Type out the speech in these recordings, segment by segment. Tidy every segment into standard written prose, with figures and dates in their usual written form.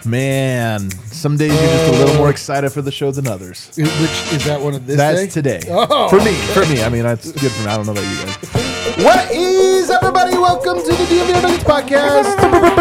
Man, some days you're just a little more excited for the show than others. Which is that one of this That's day? today. Oh. For me. I mean, that's good for me. I don't know about you guys. What is up, everybody? Welcome to the DMVR Nuggets podcast.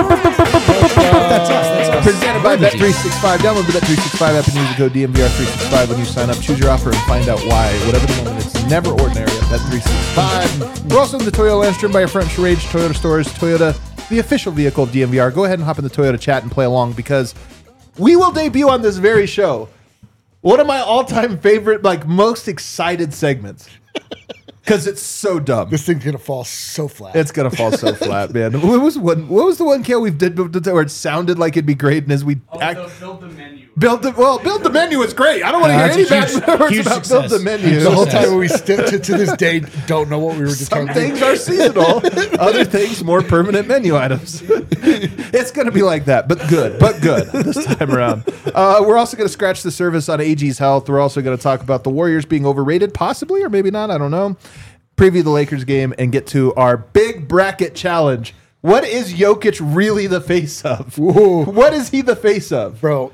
That's us. Presented by Bet365. Download the Bet365 app and use the code DMVR365 when you sign up. Choose your offer and find out why. Whatever the moment, it's never ordinary at Bet365. We're also in the Toyota Landstream by our friend Sharage Toyota Stores. Toyota, the official vehicle of DMVR. Go ahead and hop in the Toyota chat and play along because we will debut on this very show one of my all-time favorite, most excited segments. Because it's so dumb. This thing's going to fall so flat. It's gonna fall so flat, man. What was the one Kale we did where it sounded like it'd be great, and as we Build the menu. build the menu is great. I don't want to hear any bad words huge about success. build the menu. The whole time we still, to this day, don't know what we were Some determining. things are seasonal, other things more permanent menu items. It's gonna be like that, but good this time around. We're also gonna scratch the surface on AG's health. We're also gonna talk about the Warriors being overrated, possibly or maybe not. I don't know. Preview the Lakers game and get to our big bracket challenge. What is Jokic really the face of? Whoa. What is he the face of? Bro,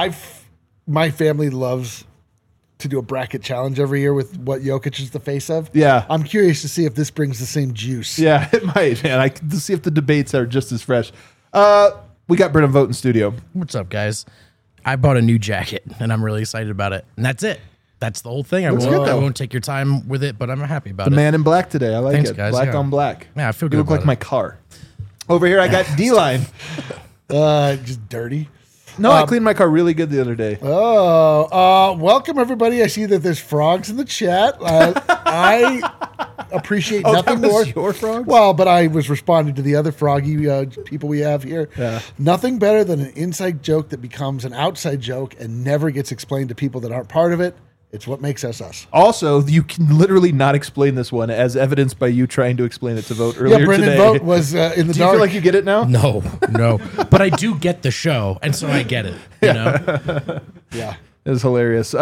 my family loves to do a bracket challenge every year with what Jokic is the face of. Yeah. I'm curious to see if this brings the same juice. Yeah, it might, man. To see if the debates are just as fresh. We got Brennan Vogt in studio. What's up, guys? I bought a new jacket, and I'm really excited about it. And that's it. That's the whole thing. I Looks good, though. won't take your time with it, but I'm happy about The it. man in black today. I like Thanks, it. guys. Black Yeah. on black. Yeah, I feel You good look about like my car. Over here, I got D-Line. Just dirty. No, I cleaned my car really good the other day. Welcome, everybody. I see that there's frogs in the chat. I appreciate nothing that was more. your frogs? Well, but I was responding to the other froggy people we have here. Yeah. Nothing better than an inside joke that becomes an outside joke and never gets explained to people that aren't part of it. It's what makes us us. Also, you can literally not explain this one, as evidenced by you trying to explain it to Vote earlier Yeah, Brendan today. Vogt was in the Do you dark. feel like you get it now? No. But I do get the show, and so I get it. You know? Yeah. It was hilarious.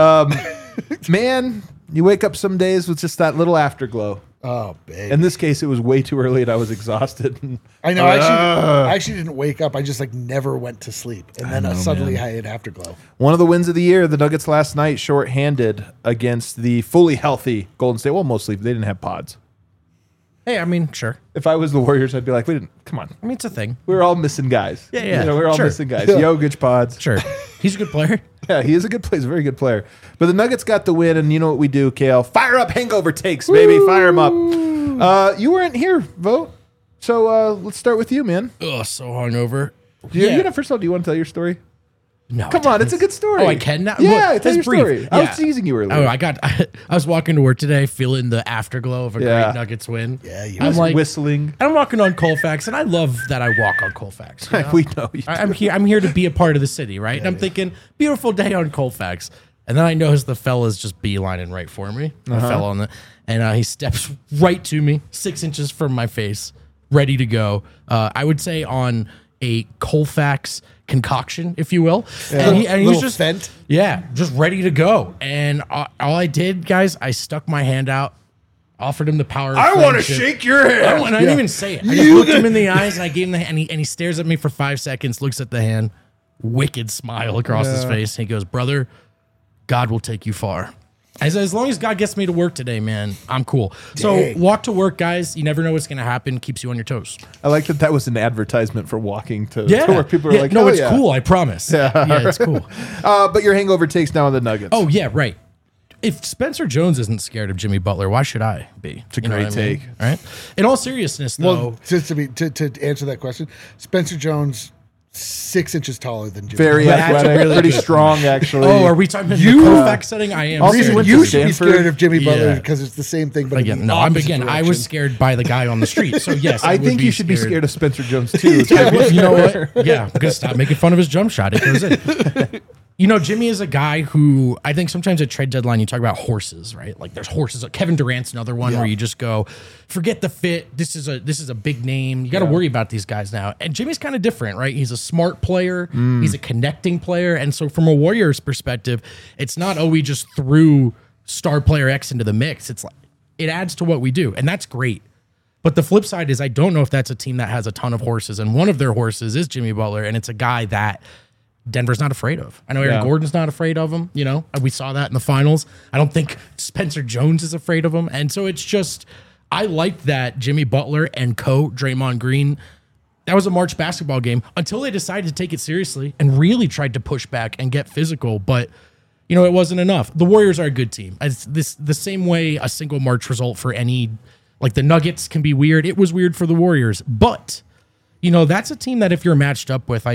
Man, you wake up some days with just that little afterglow. Oh, babe. In this case, it was way too early and I was exhausted. I know. I actually didn't wake up. I just never went to sleep, and then suddenly I had afterglow. One of the wins of the year, the Nuggets last night, shorthanded against the fully healthy Golden State. Well, mostly they didn't have pods. Hey, I mean, sure. If I was the Warriors, I'd be like, come on. I mean, it's a thing. We were all missing guys. Yeah. You know, we were all Sure. missing guys. Jokic pods. Sure. He's a good player. Yeah, he is a good player. He's a very good player. But the Nuggets got the win, and you know what we do, Kale? Fire up hangover takes, baby. Fire them up. You weren't here, Vote. So let's start with you, man. Ugh, so hungover. First of all, do you want to tell your story? No. Come on, it's a good story. Oh, I can now? Yeah, Well, tell that's your brief. story. I Yeah. was teasing you earlier. Oh, I was walking to work today feeling the afterglow of a Yeah. great Nuggets win. Yeah, you I'm was like whistling. I'm walking on Colfax, and I love that I walk on Colfax. You know? We know you. I'm here to be a part of the city, right? And I'm thinking, beautiful day on Colfax. And then I notice the fella's just beelining right for me. The fella on and he steps right to me, 6 inches from my face, ready to go. I would say on a Colfax concoction, if you will. And he was Little just Fent. Yeah, just ready to go. And all I did, guys, I stuck my hand out, offered him the power of friendship. your hand. And I didn't even say it. I just looked him in the eyes and I gave him the hand. And he stares at me for 5 seconds, looks at the hand, wicked smile across his face. And he goes, brother, God will take you far. As long as God gets me to work today, man, I'm cool. So walk to work, guys. You never know what's going to happen. Keeps you on your toes. I like that was an advertisement for walking to Yeah. where people are like, no, "Oh, it's yeah." cool. I promise. Yeah, it's cool. But your hangover takes now on the Nuggets. Oh, yeah, right. If Spencer Jones isn't scared of Jimmy Butler, why should I be? It's a great take. Right? In all seriousness, though. Well, to answer that question, Spencer Jones, 6 inches taller than Jimmy. very That's athletic, really pretty good. strong, actually. Oh, are we talking about the Colfax setting? I am. Also, scared. went to You should be Stanford. scared of Jimmy Butler Yeah. because it's the same thing. But in Again, the no, opposite I was direction. scared by the guy on the street. So yes, I would think be you should be scared. scared of Spencer Jones too. You know what? Yeah, I'm gonna stop making fun of his jump shot. It goes in. You know, Jimmy is a guy who I think sometimes at trade deadline you talk about horses, right? Like there's horses. Kevin Durant's another one where you just go, forget the fit. This is a big name. You got to worry about these guys now. And Jimmy's kind of different, right? He's a smart player. He's a connecting player. And so from a Warriors perspective, it's not we just threw star player X into the mix. It's like it adds to what we do, and that's great. But the flip side is I don't know if that's a team that has a ton of horses, and one of their horses is Jimmy Butler, and it's a guy that Denver's not afraid of. I know Aaron Gordon's not afraid of him. You know, we saw that in the finals. I don't think Spencer Jones is afraid of him. And so it's just, I like that Jimmy Butler and Draymond Green, that was a March basketball game until they decided to take it seriously and really tried to push back and get physical. But, you know, it wasn't enough. The Warriors are a good team. The same way a single March result for any, like the Nuggets can be weird. It was weird for the Warriors. But, you know, that's a team that if you're matched up with,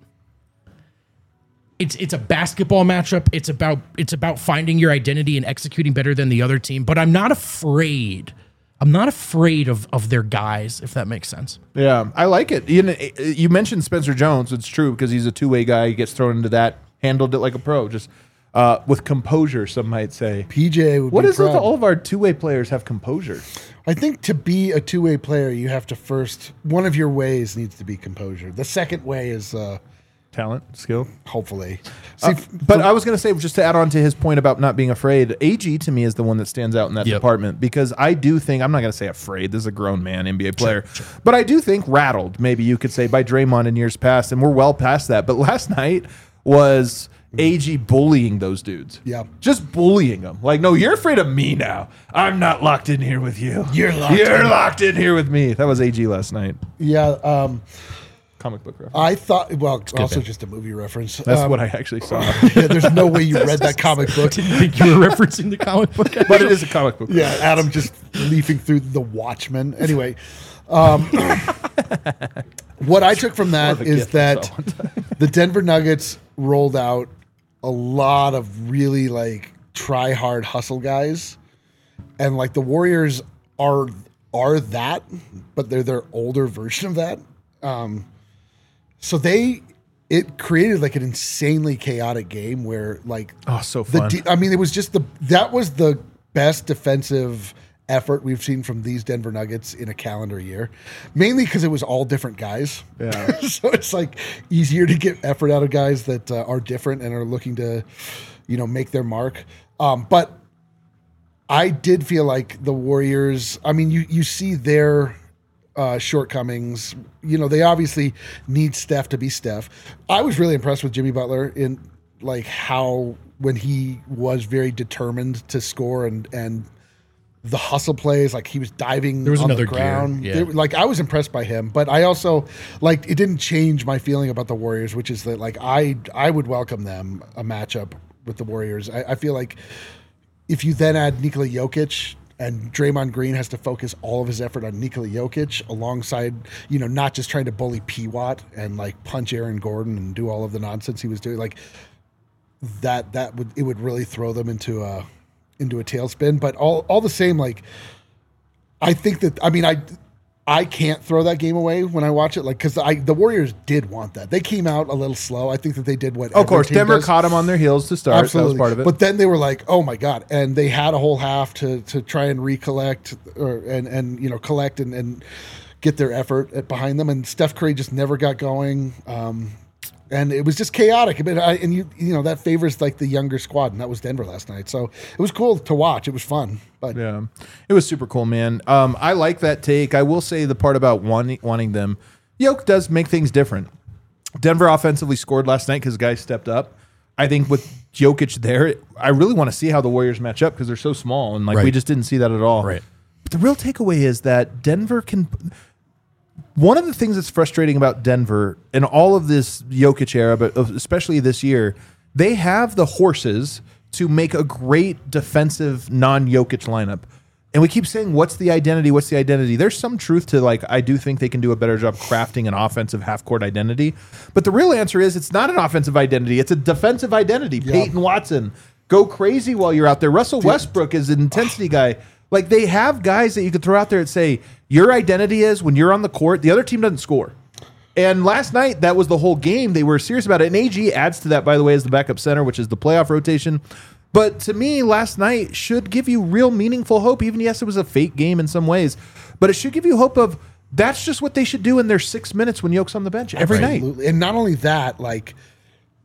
it's a basketball matchup. It's about finding your identity and executing better than the other team. But I'm not afraid of their guys, if that makes sense. Yeah, I like it. You mentioned Spencer Jones. It's true because he's a two-way guy. He gets thrown into that, handled it like a pro, just with composure, some might say. PJ would What be is it proud. that all of our two-way players have composure? I think to be a two-way player, you have to first, one of your ways needs to be composure. The second way is Talent, skill. hopefully. But I was going to say, just to add on to his point about not being afraid, AG to me is the one that stands out in that department because I do think, I'm not going to say afraid, this is a grown man, NBA player, but I do think rattled, maybe you could say, by Draymond in years past, and we're well past that. But last night was AG bullying those dudes. Yeah. Just bullying them. Like, no, you're afraid of me now. I'm not locked in here with you. You're locked in here with me. That was AG last night. Yeah. Comic book reference. I thought, well, also just a movie reference. That's what I actually saw. Yeah, there's no way you read that comic book. Didn't think you were referencing the comic book. But it is a comic book. Yeah, Adam just leafing through The Watchmen. Anyway, what I took from that is that the Denver Nuggets rolled out a lot of really like try hard hustle guys, and like the Warriors are that, but they're their older version of that. So it created like an insanely chaotic game where like so fun. I mean, it was just that was the best defensive effort we've seen from these Denver Nuggets in a calendar year, mainly because it was all different guys. Yeah. So it's like easier to get effort out of guys that are different and are looking to, you know, make their mark. But I did feel like the Warriors, I mean, you see their shortcomings. You know, they obviously need Steph to be Steph. I was really impressed with Jimmy Butler in like how when he was very determined to score and the hustle plays, like he was diving There was on another the ground. gear, yeah. Like I was impressed by him, but I also like it didn't change my feeling about the Warriors, which is that like I would welcome them a matchup with the Warriors. I feel like if you then add Nikola Jokic and Draymond Green has to focus all of his effort on Nikola Jokic alongside, you know, not just trying to bully P. Watt and like punch Aaron Gordon and do all of the nonsense he was doing. Like that would really throw them into a tailspin. But all the same, like I think that, I mean, I can't throw that game away when I watch it, like because the Warriors did want that. They came out a little slow. I think that they did what. Of course, every team Denver does. caught them on their heels to start. Absolutely. That was part of it. But then they were like, "Oh my god!" And they had a whole half to try and recollect and you know collect and get their effort behind them. And Steph Curry just never got going. And it was just chaotic. And you know that favors like the younger squad, and that was Denver last night. So it was cool to watch. It was fun. But yeah, it was super cool, man. I like that take. I will say the part about wanting them. Yoke does make things different. Denver offensively scored last night because guys stepped up. I think with Jokic there, I really want to see how the Warriors match up because they're so small and like we just didn't see that at all. Right. But the real takeaway is that Denver can. One of the things that's frustrating about Denver in all of this Jokic era, but especially this year, they have the horses to make a great defensive non-Jokic lineup. And we keep saying, what's the identity? What's the identity? There's some truth to, like, I do think they can do a better job crafting an offensive half-court identity. But the real answer is it's not an offensive identity. It's a defensive identity. Yeah. Peyton Watson, go crazy while you're out there. Russell Westbrook is an intensity guy. Like, they have guys that you could throw out there and say, your identity is when you're on the court, the other team doesn't score. And last night, that was the whole game. They were serious about it. And AG adds to that, by the way, as the backup center, which is the playoff rotation. But to me, last night should give you real meaningful hope. Even, yes, it was a fake game in some ways. But it should give you hope of that's just what they should do in their 6 minutes when Yoke's on the bench every night. And not only that, like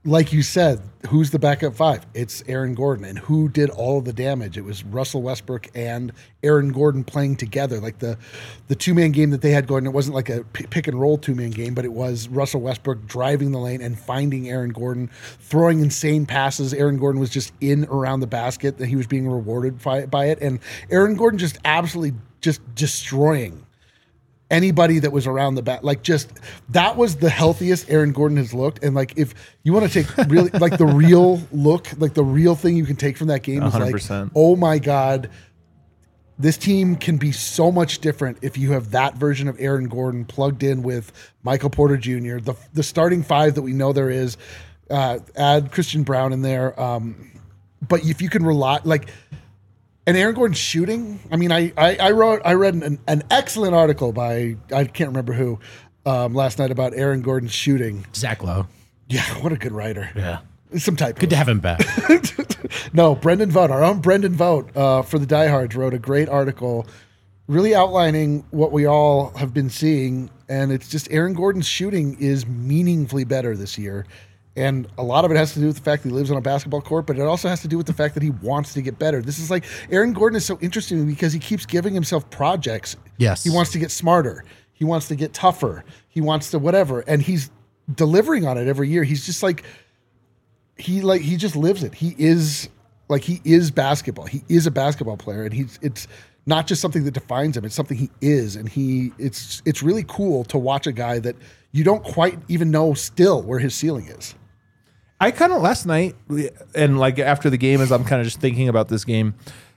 like you said, who's the backup five? It's Aaron Gordon. And who did all of the damage? It was Russell Westbrook and Aaron Gordon playing together. Like the two-man game that they had going, it wasn't like a pick and roll two-man game, but it was Russell Westbrook driving the lane and finding Aaron Gordon, throwing insane passes. Aaron Gordon was just in around the basket, that he was being rewarded by it. And Aaron Gordon just absolutely just destroying anybody that was around the back. Like, just, that was the healthiest Aaron Gordon has looked. And like, if you want to take really like the real look, like the real thing you can take from that game is 100%. like, oh my God, this team can be so much different if you have that version of Aaron Gordon plugged in with Michael Porter Jr., the starting five that we know there is, add Christian Brown in there. But if you can rely, like, and Aaron Gordon's shooting, I mean, I read an excellent article by, I can't remember who, last night about Aaron Gordon's shooting. Zach Lowe. Yeah, what a good writer. Yeah. Some type. Good to have him back. No, Brendan Vogt, our own Brendan Vogt, for the Diehards, wrote a great article really outlining what we all have been seeing. And it's just Aaron Gordon's shooting is meaningfully better this year. And a lot of it has to do with the fact that he lives on a basketball court, but it also has to do with the fact that he wants to get better. This is like, Aaron Gordon is so interesting because he keeps giving himself projects. Yes. He wants to get smarter. He wants to get tougher. He wants to whatever. And he's delivering on it every year. He's just like, he just lives it. He is basketball. He is a basketball player. And it's not just something that defines him. It's something he is. And it's really cool to watch a guy that you don't quite even know still where his ceiling is. I kind of last night, and like after the game, as I'm kind of just thinking about this game,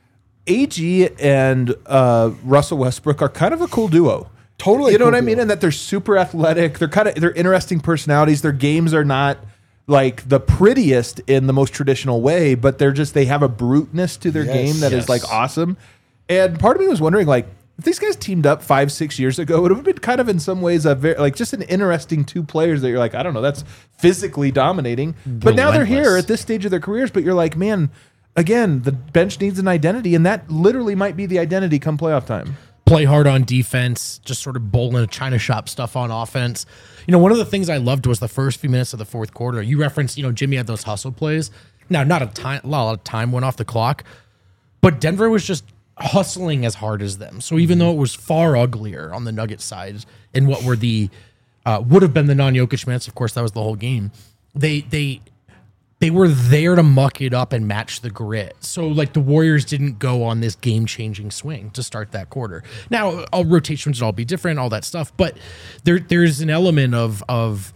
AG and Russell Westbrook are kind of a cool duo. Totally, you know cool what I mean? duo. And that they're super athletic. They're interesting personalities. Their games are not like the prettiest in the most traditional way, but they have a bruteness to their game that is like awesome. And part of me was wondering, like, if these guys teamed up 5-6 years ago, it would have been kind of in some ways a very, like, just an interesting two players that you're like, I don't know, that's physically dominating. But now they're here at this stage of their careers, but you're like, man, again, the bench needs an identity, and that literally might be the identity come playoff time. Play hard on defense, just sort of bowling a China shop stuff on offense. You know, one of the things I loved was the first few minutes of the fourth quarter. You referenced, you know, Jimmy had those hustle plays. Now, not a lot of time went off the clock, but Denver was just hustling as hard as them. So even though it was far uglier on the Nuggets side in what were the would have been the non-Jokic minutes, of course, that was the whole game. They were there to muck it up and match the grit. So like the Warriors didn't go on this game-changing swing to start that quarter. Now, all rotations would all be different, all that stuff, but there's an element of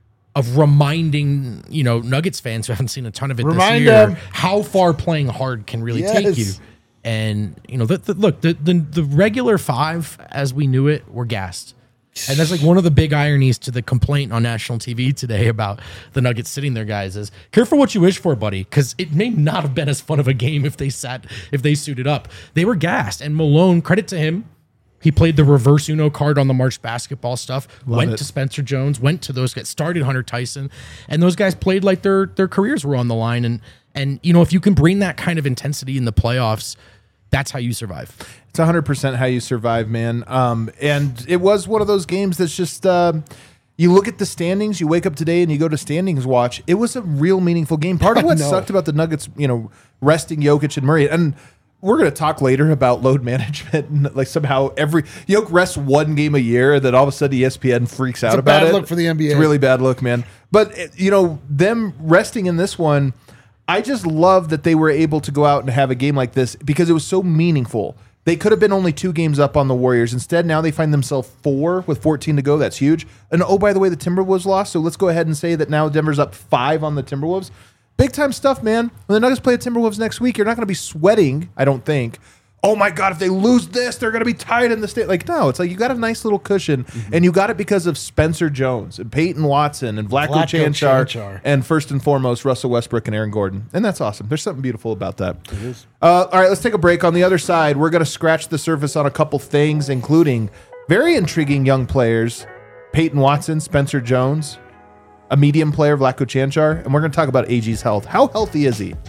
reminding, you know, Nuggets fans who haven't seen a ton of it this year, how far playing hard can really take you. And, you know, the regular five, as we knew it, were gassed. And that's like one of the big ironies to the complaint on national TV today about the Nuggets sitting there, guys, is careful what you wish for, buddy, because it may not have been as fun of a game if they suited up. They were gassed. And Malone, credit to him, he played the reverse Uno card on the March basketball stuff, went to Spencer Jones, went to those guys, started Hunter Tyson, and those guys played like their careers were on the line. And you know, if you can bring that kind of intensity in the playoffs, that's how you survive. It's 100% how you survive, man. And it was one of those games that's just, you look at the standings, you wake up today and you go to standings watch. It was a real meaningful game. Part of what sucked about the Nuggets, you know, resting Jokic and Murray, and we're going to talk later about load management. And like somehow Jokic rests one game a year, and then all of a sudden ESPN freaks out about it. It's a bad look for the NBA. It's a really bad look, man. But, you know, them resting in this one, I just love that they were able to go out and have a game like this because it was so meaningful. They could have been only 2 games up on the Warriors. Instead, now they find themselves 4 with 14 to go. That's huge. And oh, by the way, the Timberwolves lost. So let's go ahead and say that now Denver's up 5 on the Timberwolves. Big time stuff, man. When the Nuggets play the Timberwolves next week, you're not going to be sweating, I don't think. Oh my God, if they lose this, they're going to be tied in the state. Like, no, it's like you got a nice little cushion, and you got it because of Spencer Jones and Peyton Watson and Vlatko Cancar, and first and foremost, Russell Westbrook and Aaron Gordon. And that's awesome. There's something beautiful about that. It is. All right, let's take a break. On the other side, we're going to scratch the surface on a couple things, including very intriguing young players, Peyton Watson, Spencer Jones, a medium player, Vlatko Cancar, and we're going to talk about AG's health. How healthy is he?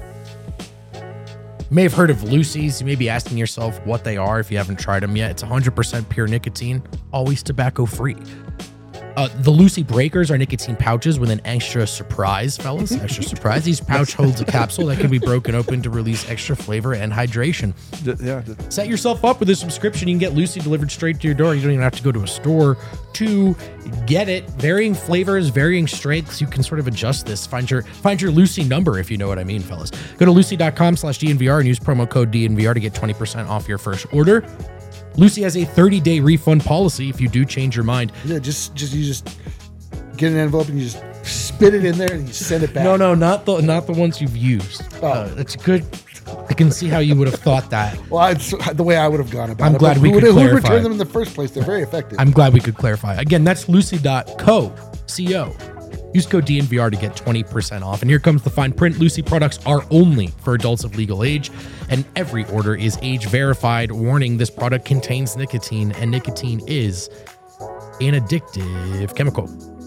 You may have heard of Lucy's. You may be asking yourself what they are if you haven't tried them yet. It's 100% pure nicotine, always tobacco free. The Lucy Breakers are nicotine pouches with an extra surprise, fellas. Extra surprise. Each pouch holds a capsule that can be broken open to release extra flavor and hydration. Set yourself up with a subscription. You can get Lucy delivered straight to your door. You don't even have to go to a store to get it. Varying flavors, varying strengths. You can sort of adjust this. Find your Lucy number, if you know what I mean, fellas. Go to lucy.com/DNVR and use promo code DNVR to get 20% off your first order. Lucy has a 30-day refund policy if you do change your mind. Yeah, just get an envelope and you just spit it in there and you send it back. No, not the ones you've used. That's good. I can see how you would have thought that. Well, it's the way I would have gone about it. I'm glad we could who clarify. returned them in the first place? They're very effective. I'm glad we could clarify. Again, that's lucy.co. Use code DNVR to get 20% off. And here comes the fine print. Lucy products are only for adults of legal age, and every order is age verified. Warning, this product contains nicotine, and nicotine is an addictive chemical.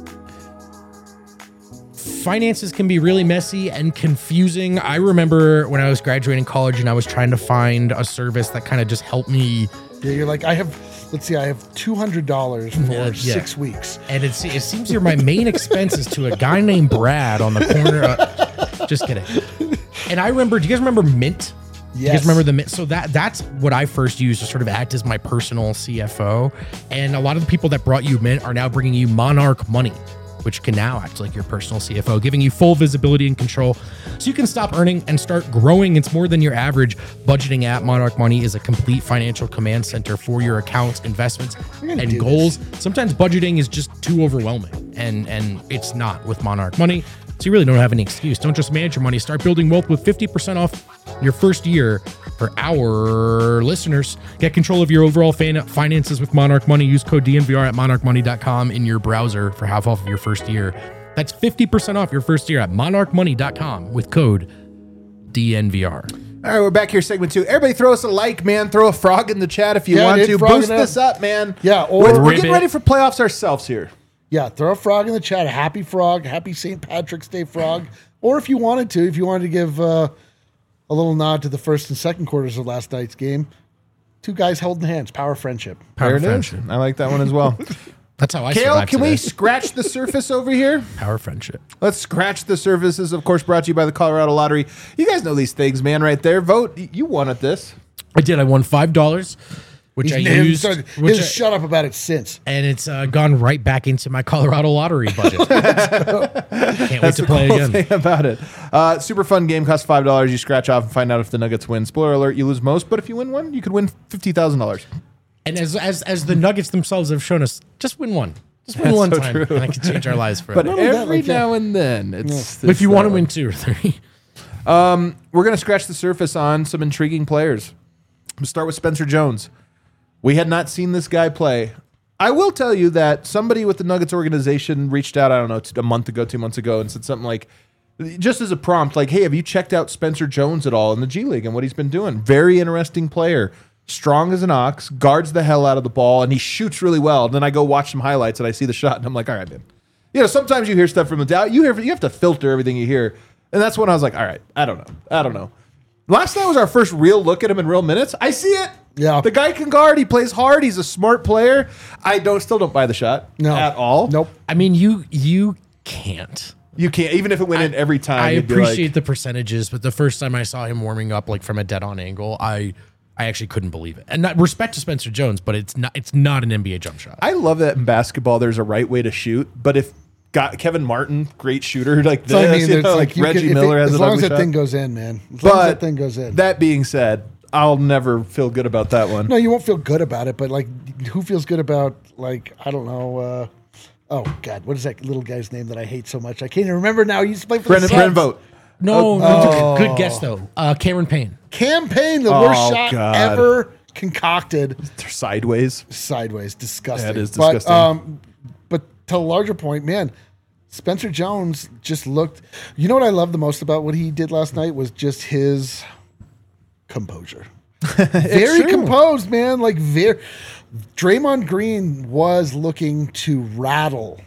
Finances can be really messy and confusing. I remember when I was graduating college and I was trying to find a service that kind of just helped me. Yeah, you're like, I have $200 for 6 weeks. And it seems my main expense is to a guy named Brad on the corner. Just kidding. And I remember, do you guys remember Mint? Yes. You guys remember the Mint? So that's what I first used to sort of act as my personal CFO. And a lot of the people that brought you Mint are now bringing you Monarch Money, which can now act like your personal CFO, giving you full visibility and control so you can stop earning and start growing. It's more than your average budgeting app. Monarch Money is a complete financial command center for your accounts, investments, and goals. Sometimes budgeting is just too overwhelming, and it's not with Monarch Money. So you really don't have any excuse. Don't just manage your money. Start building wealth with 50% off your first year for our listeners. Get control of your overall finances with Monarch Money. Use code DNVR at monarchmoney.com in your browser for half off of your first year. That's 50% off your first year at monarchmoney.com with code DNVR. All right, we're back here, segment 2. Everybody throw us a like, man. Throw a frog in the chat if you want to. Boost this up, man. Yeah, or we're getting ready for playoffs ourselves here. Yeah, throw a frog in the chat. A happy frog. Happy St. Patrick's Day frog. Or if you wanted to give a little nod to the first and second quarters of last night's game. Two guys holding hands. Power friendship. Power friendship. I like that one as well. That's how I Kale, can today. we scratch the surface over here? Power friendship. Let's scratch the surface. This is, of course, brought to you by the Colorado Lottery. You guys know these things, man, right there. Vote. You won at this. I did. I won $5, which I used. Shut up about it since. And it's gone right back into my Colorado Lottery budget. Can't wait to play cool again. Thing about it. Super fun game. Costs $5. You scratch off and find out if the Nuggets win. Spoiler alert, you lose most, but if you win one, you could win $50,000. And as the Nuggets themselves have shown us, just win one. Just win one so time. true. And I can change our lives forever. But every now and then, it's... But if you want to win 2 or 3. We're going to scratch the surface on some intriguing players. We'll start with Spencer Jones. We had not seen this guy play. I will tell you that somebody with the Nuggets organization reached out, I don't know, a month ago, 2 months ago, and said something like, just as a prompt, like, hey, have you checked out Spencer Jones at all in the G League and what he's been doing? Very interesting player. Strong as an ox, guards the hell out of the ball, and he shoots really well. And then I go watch some highlights, and I see the shot, and I'm like, all right, man. You know, sometimes you hear stuff from the doubt. You have to filter everything you hear. And that's when I was like, all right, I don't know. Last night was our first real look at him in real minutes. I see it. Yeah. The guy can guard. He plays hard. He's a smart player. I still don't buy the shot at all. Nope. I mean, you can't. You can't, even if it went in every time. I you'd be appreciate like, the percentages, but the first time I saw him warming up like from a dead-on angle, I actually couldn't believe it. And not respect to Spencer Jones, but it's not an NBA jump shot. I love that in basketball there's a right way to shoot, but if Kevin Martin, great shooter like this, I mean, like Reggie Miller has as an long ugly as that shot. thing goes in, man. As long as that thing goes in. That being said, I'll never feel good about that one. No, you won't feel good about it, but like, who feels good about, like, I don't know, oh God, what is that little guy's name that I hate so much? I can't even remember now. He used to play for the Brendan Suns. Vogt. No, good guess though. Cameron Payne. Campaign, the worst shot God. ever concocted. Sideways. Disgusting. That is disgusting. But to a larger point, man, Spencer Jones just looked. You know what I love the most about what he did last night was just his composure. Very composed, man. Like Draymond Green was looking to rattle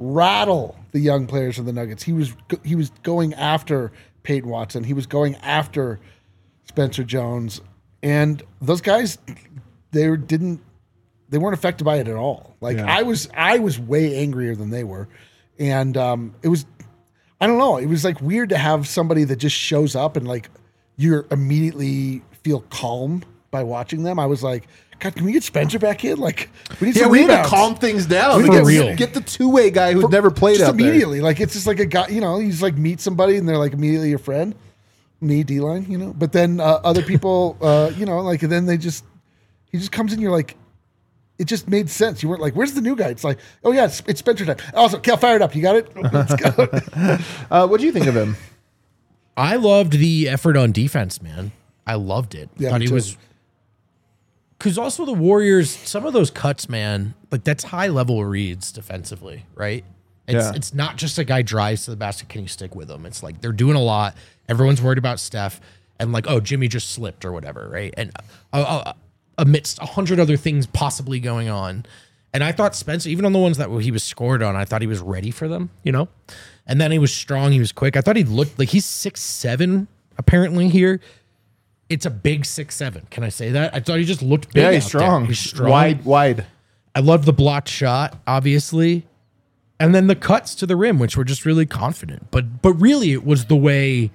the young players of the Nuggets. He was going after Peyton Watson. He was going after Spencer Jones, and those guys, they didn't they weren't affected by it at all. Like I was way angrier than they were, and it was, I don't know, it was like weird to have somebody that just shows up and like you're immediately feel calm by watching them. I was like, God, can we get Spencer back in? Like, we need some we need to rebounds. calm things down. For real. Get the two-way guy who's never played just out there. immediately. Like, it's just like a guy, you know, he's like meet somebody and they're like immediately your friend. Me, D-line, you know. But then other people, you know, like, and then he just comes in, you're like, it just made sense. You weren't like, where's the new guy? It's like, oh yeah, it's Spencer time. Also, Cal, fire it up. You got it? Let's go. What do you think of him? I loved the effort on defense, man. I loved it. Yeah, Thought me he too. was, because also the Warriors, some of those cuts, man, like that's high level reads defensively, right? It's not just a guy drives to the basket, can you stick with him? It's like they're doing a lot. Everyone's worried about Steph and like, oh, Jimmy just slipped or whatever, right? And amidst 100 other things possibly going on. And I thought Spencer, even on the ones that he was scored on, I thought he was ready for them, you know? And then he was strong, he was quick. I thought he looked like he's 6'7", apparently here. It's a big 6'7". Can I say that? I thought he just looked big. Yeah, he's out there. strong. He's strong. Wide. I loved the blocked shot, obviously. And then the cuts to the rim, which were just really confident. But really, it was the way,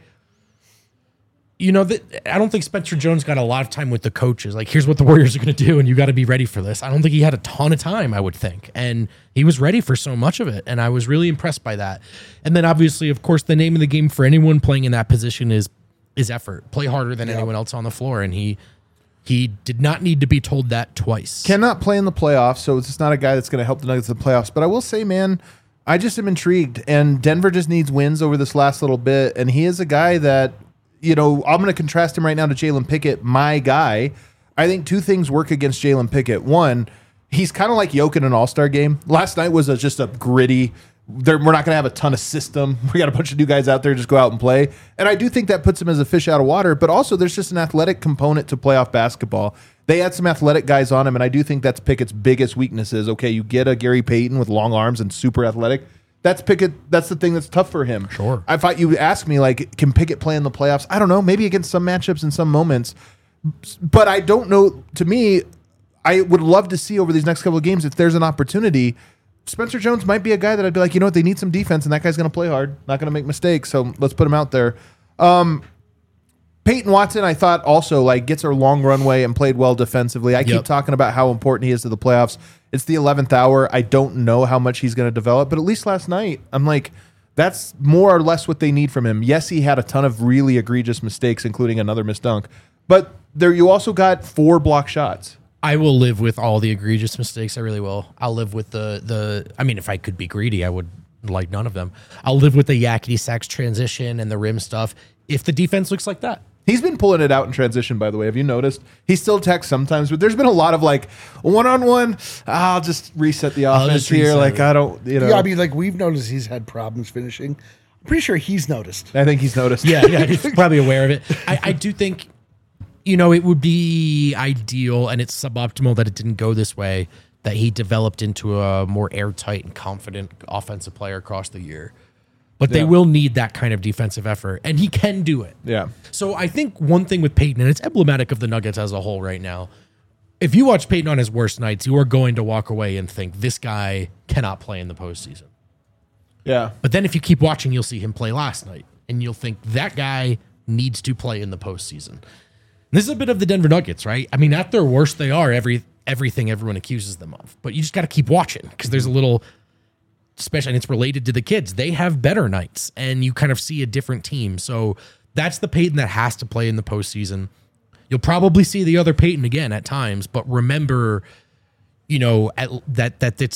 you know, that I don't think Spencer Jones got a lot of time with the coaches. Like, here's what the Warriors are going to do, and you got to be ready for this. I don't think he had a ton of time, I would think. And he was ready for so much of it, and I was really impressed by that. And then, obviously, of course, the name of the game for anyone playing in that position is effort. Play harder than anyone else on the floor, and he did not need to be told that twice. Cannot play in the playoffs, so it's just not a guy that's going to help the Nuggets in the playoffs. But I will say, man, I just am intrigued, and Denver just needs wins over this last little bit, and he is a guy that, you know, I'm going to contrast him right now to Jalen Pickett, my guy. I think two things work against Jalen Pickett. One, he's kind of like Jokic in an all-star game. Last night was just a gritty, we're not going to have a ton of system. We got a bunch of new guys out there, just go out and play. And I do think that puts him as a fish out of water, but also there's just an athletic component to playoff basketball. They had some athletic guys on him, and I do think that's Pickett's biggest weaknesses. Okay, you get a Gary Payton with long arms and super athletic. That's Pickett. That's the thing that's tough for him. Sure. I thought you would ask me, like, can Pickett play in the playoffs? I don't know. Maybe against some matchups in some moments. But I don't know. To me, I would love to see over these next couple of games if there's an opportunity. Spencer Jones might be a guy that I'd be like, you know what, they need some defense, and that guy's going to play hard, not going to make mistakes, so let's put him out there. Peyton Watson, I thought also like gets a long runway and played well defensively. I keep talking about how important he is to the playoffs. It's the 11th hour. I don't know how much he's going to develop, but at least last night, I'm like, that's more or less what they need from him. Yes, he had a ton of really egregious mistakes, including another missed dunk, but there you also got 4 block shots. I will live with all the egregious mistakes. I really will. I'll live with the. I mean, if I could be greedy, I would like none of them. I'll live with the yakety sax transition and the rim stuff if the defense looks like that. He's been pulling it out in transition, by the way. Have you noticed? He still attacks sometimes, but there's been a lot of like one-on-one. I'll just reset the offense here. Like, I don't, you know. Yeah, I mean, like we've noticed he's had problems finishing. I'm pretty sure he's noticed. I think he's noticed. Yeah, he's probably aware of it. I do think, you know, it would be ideal, and it's suboptimal that it didn't go this way, that he developed into a more airtight and confident offensive player across the year. But they will need that kind of defensive effort, and he can do it. Yeah. So I think one thing with Peyton, and it's emblematic of the Nuggets as a whole right now, if you watch Peyton on his worst nights, you are going to walk away and think, this guy cannot play in the postseason. Yeah. But then if you keep watching, you'll see him play last night, and you'll think, that guy needs to play in the postseason. This is a bit of the Denver Nuggets, right? I mean, at their worst, they are everything everyone accuses them of. But you just got to keep watching because there's a little, especially, and it's related to the kids. They have better nights, and you kind of see a different team. So that's the Peyton that has to play in the postseason. You'll probably see the other Peyton again at times, but remember, you know, that it's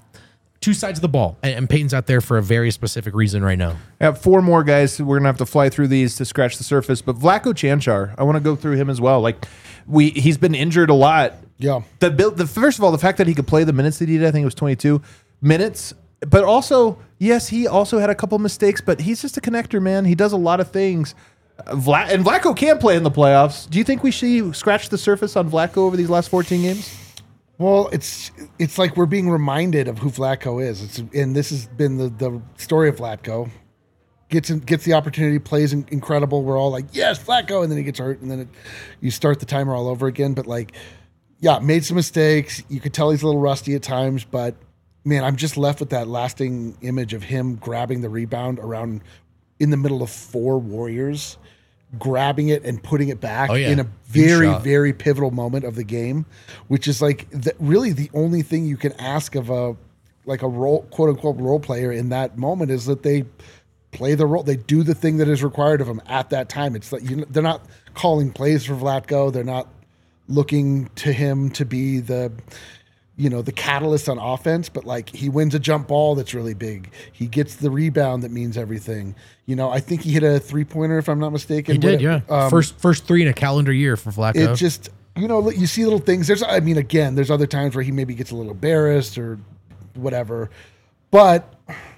two sides of the ball, and Peyton's out there for a very specific reason right now. I have 4 more guys. We're going to have to fly through these to scratch the surface. But Vlatko Cancar, I want to go through him as well. Like, he's been injured a lot. Yeah. First of all, the fact that he could play the minutes that he did, I think it was 22 minutes. But also, yes, he also had a couple mistakes, but he's just a connector, man. He does a lot of things. And Vlatko can play in the playoffs. Do you think we should scratch the surface on Vlatko over these last 14 games? Well, it's like we're being reminded of who Vlatko is. And this has been the story of Vlatko. Gets the opportunity, plays incredible. We're all like, yes, Vlatko, and then he gets hurt, and then you start the timer all over again. But like, yeah, made some mistakes. You could tell he's a little rusty at times, but man, I'm just left with that lasting image of him grabbing the rebound around in the middle of 4 Warriors, grabbing it and putting it back in a very, very pivotal moment of the game, which is like really the only thing you can ask of a role, quote unquote, role player in that moment is that they play the role. They do the thing that is required of them at that time. It's like they're not calling plays for Vlatko. They're not looking to him to be the catalyst on offense, but like he wins a jump ball that's really big. He gets the rebound that means everything. I think he hit a 3-pointer if I'm not mistaken. He did, yeah. First 3 in a calendar year for Vlatko. It just, you see little things. There's other times where he maybe gets a little embarrassed or whatever. But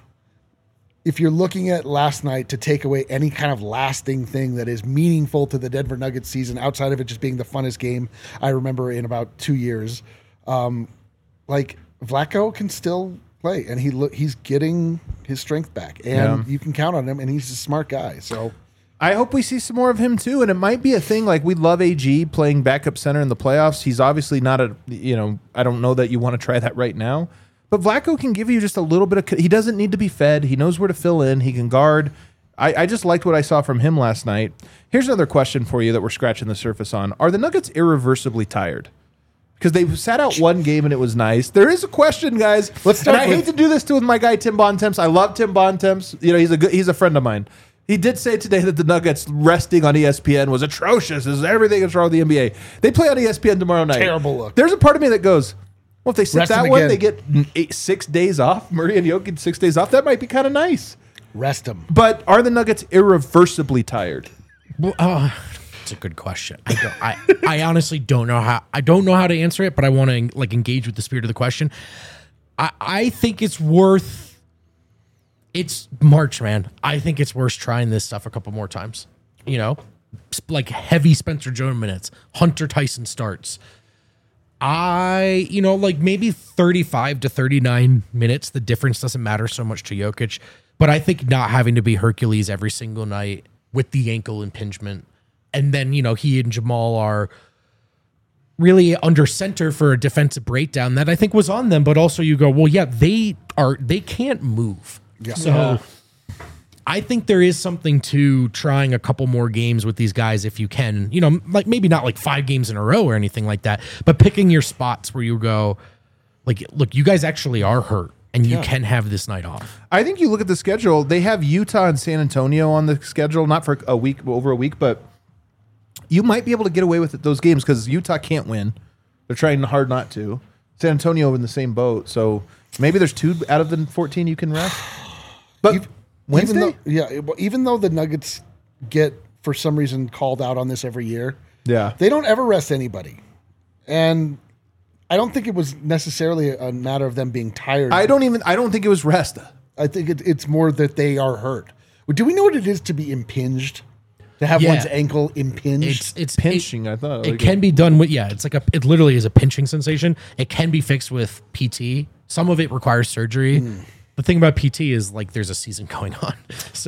if you're looking at last night to take away any kind of lasting thing that is meaningful to the Denver Nuggets season, outside of it just being the funnest game I remember in about 2 years, like Vlatko can still play, and he's getting his strength back, and you can count on him, and he's a smart guy. So I hope we see some more of him too, and it might be a thing. Like we love AG playing backup center in the playoffs. He's obviously not I don't know that you want to try that right now, but Vlatko can give you just a little bit of. He doesn't need to be fed. He knows where to fill in. He can guard. I just liked what I saw from him last night. Here's another question for you that we're scratching the surface on: are the Nuggets irreversibly tired? Because they sat out one game and it was nice. There is a question, guys. Let's start. And I hate to do this with my guy Tim Bontemps. I love Tim Bontemps. He's a friend of mine. He did say today that the Nuggets resting on ESPN was atrocious. Everything is wrong with the NBA. They play on ESPN tomorrow night. Terrible look. There's a part of me that goes, well, if they sit that one, they get 6 days off. Murray and Jokic 6 days off. That might be kind of nice. Rest them. But are the Nuggets irreversibly tired? Well, it's a good question. I honestly don't know how. I don't know how to answer it, but I want to engage with the spirit of the question. I think it's worth. It's March, man. I think it's worth trying this stuff a couple more times. Like heavy Spencer Jones minutes, Hunter Tyson starts. Maybe 35 to 39 minutes. The difference doesn't matter so much to Jokic, but I think not having to be Hercules every single night with the ankle impingement. And then, he and Jamal are really under center for a defensive breakdown that I think was on them. But also you go, well, yeah, they can't move. Yeah. So I think there is something to trying a couple more games with these guys if you can, maybe not like 5 games in a row or anything like that, but picking your spots where you go, look, you guys actually are hurt. And you can have this night off. I think you look at the schedule, they have Utah and San Antonio on the schedule, not for a week, over a week, but you might be able to get away with those games because Utah can't win. They're trying hard not to. San Antonio in the same boat. So maybe there's 2 out of the 14 you can rest. But Wednesday? Even though the Nuggets get, for some reason, called out on this every year, they don't ever rest anybody. And I don't think it was necessarily a matter of them being tired. I don't think it was rest. I think it's more that they are hurt. Do we know what it is to be impinged? To have one's ankle impinged? It's pinching, I thought. It can be done with, it's it literally is a pinching sensation. It can be fixed with PT. Some of it requires surgery. The thing about PT is there's a season going on. So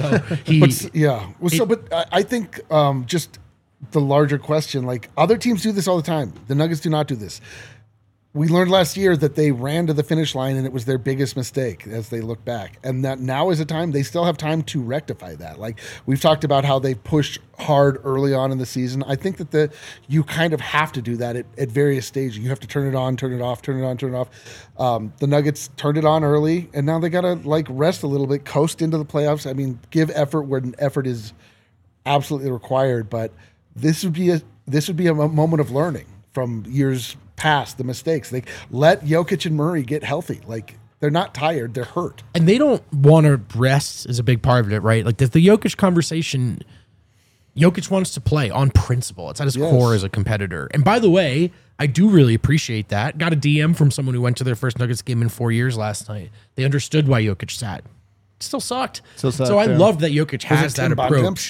I think just the larger question, other teams do this all the time. The Nuggets do not do this. We learned last year that they ran to the finish line and it was their biggest mistake as they look back. And that now is a time, they still have time to rectify that. We've talked about how they pushed hard early on in the season. I think that you kind of have to do that at various stages. You have to turn it on, turn it off, turn it on, turn it off. The Nuggets turned it on early and now they got to rest a little bit, coast into the playoffs. I mean, give effort where an effort is absolutely required. But this would be a moment of learning from years past, the mistakes. They let Jokic and Murray get healthy. They're not tired, they're hurt. And they don't want to rest is a big part of it, right? The Jokic conversation, Jokic wants to play on principle. It's at his core as a competitor. And by the way, I do really appreciate that. Got a DM from someone who went to their first Nuggets game in 4 years last night. They understood why Jokic sat. It still sucked. So I love that Jokic has that approach.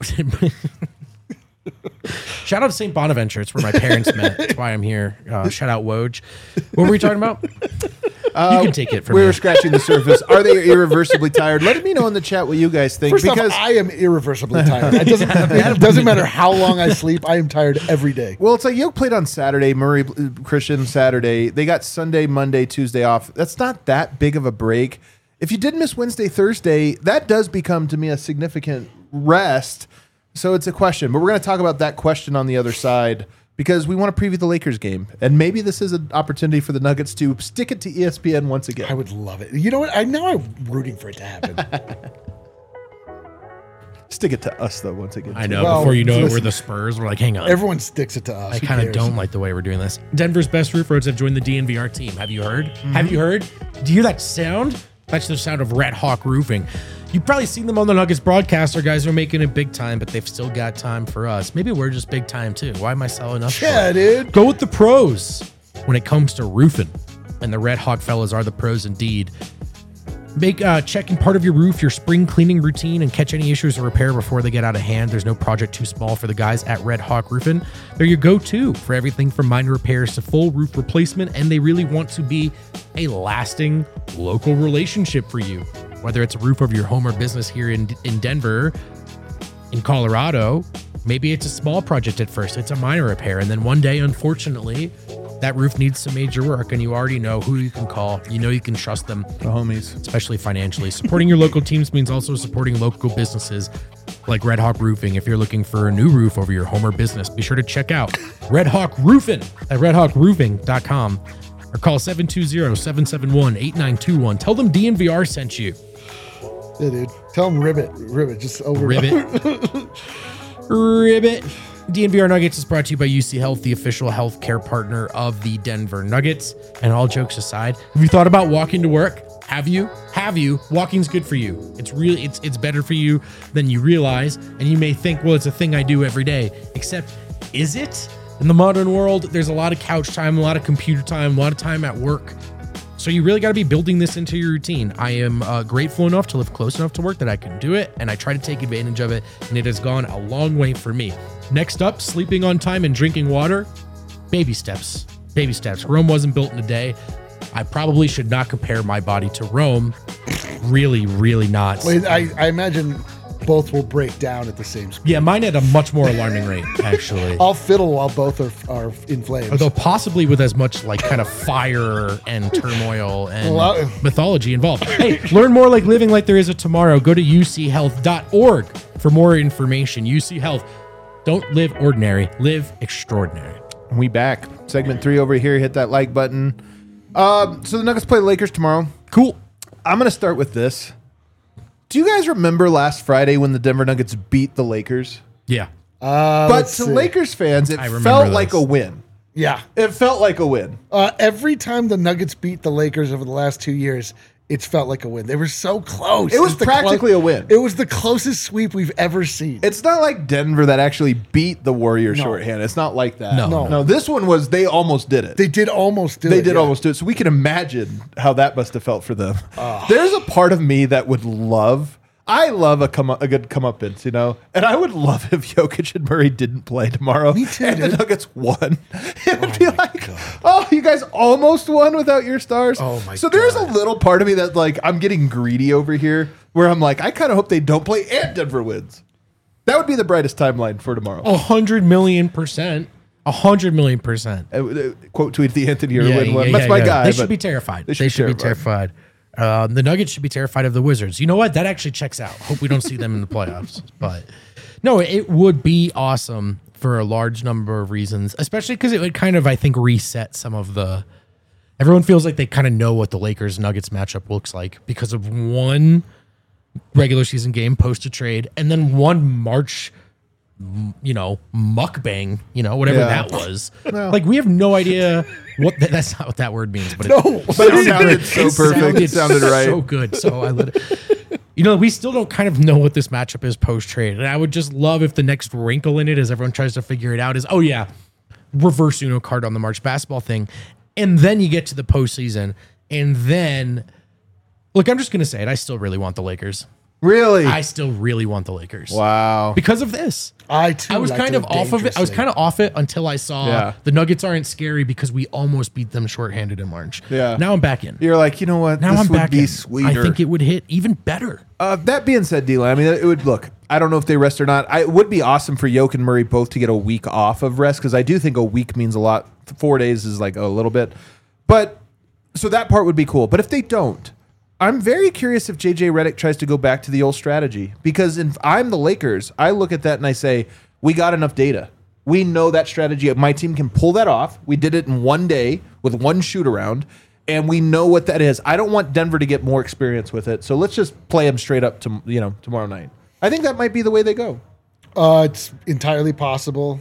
Shout out to St. Bonaventure. It's where my parents met. That's why I'm here. Shout out Woj. What were we talking about? can take it from We're here. scratching the surface. Are they irreversibly tired? Let me know in the chat what you guys think. First off, I am irreversibly tired. It doesn't matter how long I sleep. I am tired every day. well, it's like Yoke played on Saturday, Murray Christian Saturday. They got Sunday, Monday, Tuesday off. That's not that big of a break. If you did miss Wednesday, Thursday, that does become to me a significant rest. So it's a question, but we're going to talk about that question on the other side because we want to preview the Lakers game. And maybe this is an opportunity for the Nuggets to stick it to ESPN once again. I would love it. You know what? I'm rooting for it to happen. Stick it to us, though, once again. I know. Well, before you know it, listen, we're the Spurs. We're like, hang on. Everyone sticks it to us. I Who kind of cares? don't like the way we're doing this. Denver's best roof roads have joined the DNVR team. Have you heard? Have you heard? Do you hear that sound? That's the sound of Red Hawk Roofing. You've probably seen them on the Nuggets broadcast. Our guys are making it big time, but they've still got time for us. Maybe we're just big time too. Why am I selling us? Yeah, dude. Go with the pros when it comes to roofing. And the Red Hawk fellas are the pros indeed. Make checking part of your roof your spring cleaning routine and catch any issues or repair before they get out of hand. There's no project too small for the guys at Red Hawk Roofing. They're your go-to for everything from minor repairs to full roof replacement, and they really want to be a lasting local relationship for you. Whether it's a roof over your home or business here in Denver, in Colorado, maybe it's a small project at first. It's a minor repair, and then one day, unfortunately, that roof needs some major work, and you already know who you can call. You know you can trust them. The homies. Especially financially. Supporting your local teams means also supporting local businesses like Red Hawk Roofing. If you're looking for a new roof over your home or business, be sure to check out Red Hawk Roofing at redhawkroofing.com or call 720-771-8921. Tell them DNVR sent you. Yeah, dude. Tell them ribbit. Ribbit. Just over. Ribbit. Ribbit. DNVR Nuggets is brought to you by UC Health, the official healthcare partner of the Denver Nuggets. And all jokes aside, have you thought about walking to work? Have you? Have you? Walking's good for you. It's really, it's better for you than you realize. And you may think, well, it's a thing I do every day. Except, is it? In the modern world, there's a lot of couch time, a lot of computer time, a lot of time at work. So you really got to be building this into your routine. I am grateful enough to live close enough to work that I can do it, and I try to take advantage of it, and it has gone a long way for me. Next up, sleeping on time and drinking water. Baby steps. Baby steps. Rome wasn't built in a day. I probably should not compare my body to Rome. Really, really not. Wait, I imagine both will break down at the same speed. Yeah, mine at a much more alarming rate, actually. I'll fiddle while both are in flames. Although possibly with as much like kind of fire and turmoil and Well, mythology involved. Hey, learn more like living like there is a tomorrow. Go to uchealth.org for more information. UC Health. Don't live ordinary, live extraordinary. We back. Segment 3 over here. Hit that like button. So the Nuggets play the Lakers tomorrow. Cool. I'm going to start with this. Do you guys remember last Friday when the Denver Nuggets beat the Lakers? Yeah. But let's to see. Lakers fans, it I remember felt this. like a win. Yeah. It felt like a win. Every time the Nuggets beat the Lakers over the last 2 years, it's felt like a win. They were so close. It was the practically a win. It was the closest sweep we've ever seen. It's not like Denver that actually beat the Warriors No. shorthand. It's not like that. No. No, this one was they almost did it. They did almost do it. They did yeah. almost do it. So we can imagine how that must have felt for them. There's a part of me that would love. I love a good comeuppance, you know, and I would love if Jokic and Murray didn't play tomorrow. Me too, And the dude. Nuggets won. It would be like, oh, you guys almost won without your stars. Oh, my So there's a God. little part of me that like I'm getting greedy over here, where I'm like, I kind of hope they don't play and Denver wins. That would be the brightest timeline for tomorrow. 100 million%. 100 million%. Quote tweet the Anthony Irwin one. That's my guy. They but should be terrified. They should be terrified. The Nuggets should be terrified of the Wizards. You know what? That actually checks out. Hope we don't see them in the playoffs. But no, it would be awesome for a large number of reasons, especially because it would kind of, I think, reset some of the. Everyone feels like they kind of know what the Lakers Nuggets matchup looks like because of one regular season game post a trade and then one March, mukbang, whatever Yeah. that was. Like we have no idea what that's not what that word means, but No. But it sounded so perfect. It sounded right. so good. So we still don't kind of know what this matchup is post trade, and I would just love if the next wrinkle in it, as everyone tries to figure it out, is reverse Uno card on the March basketball thing, and then you get to the postseason, and then look, I'm just gonna say it. I still really want the Lakers. Really? I still really want the Lakers. Wow. Because of this. I too. I was like kind to of off of it. I was dangerously. kind of off it until I saw Yeah. the Nuggets aren't scary because we almost beat them shorthanded in March. Yeah. Now I'm back in. You're like, you know what? Now this I'm would back be in. sweeter. I think it would hit even better. That being said, D-Line, I mean, it would look. I don't know if they rest or not. It would be awesome for Yoke and Murray both to get a week off of rest because I do think a week means a lot. 4 days is like a little bit, but so that part would be cool. But if they don't, I'm very curious if JJ Redick tries to go back to the old strategy because if I'm the Lakers, I look at that and I say we got enough data. We know that strategy. My team can pull that off. We did it in 1 day with one shoot around. And we know what that is. I don't want Denver to get more experience with it. So let's just play them straight up to tomorrow night. I think that might be the way they go. It's entirely possible.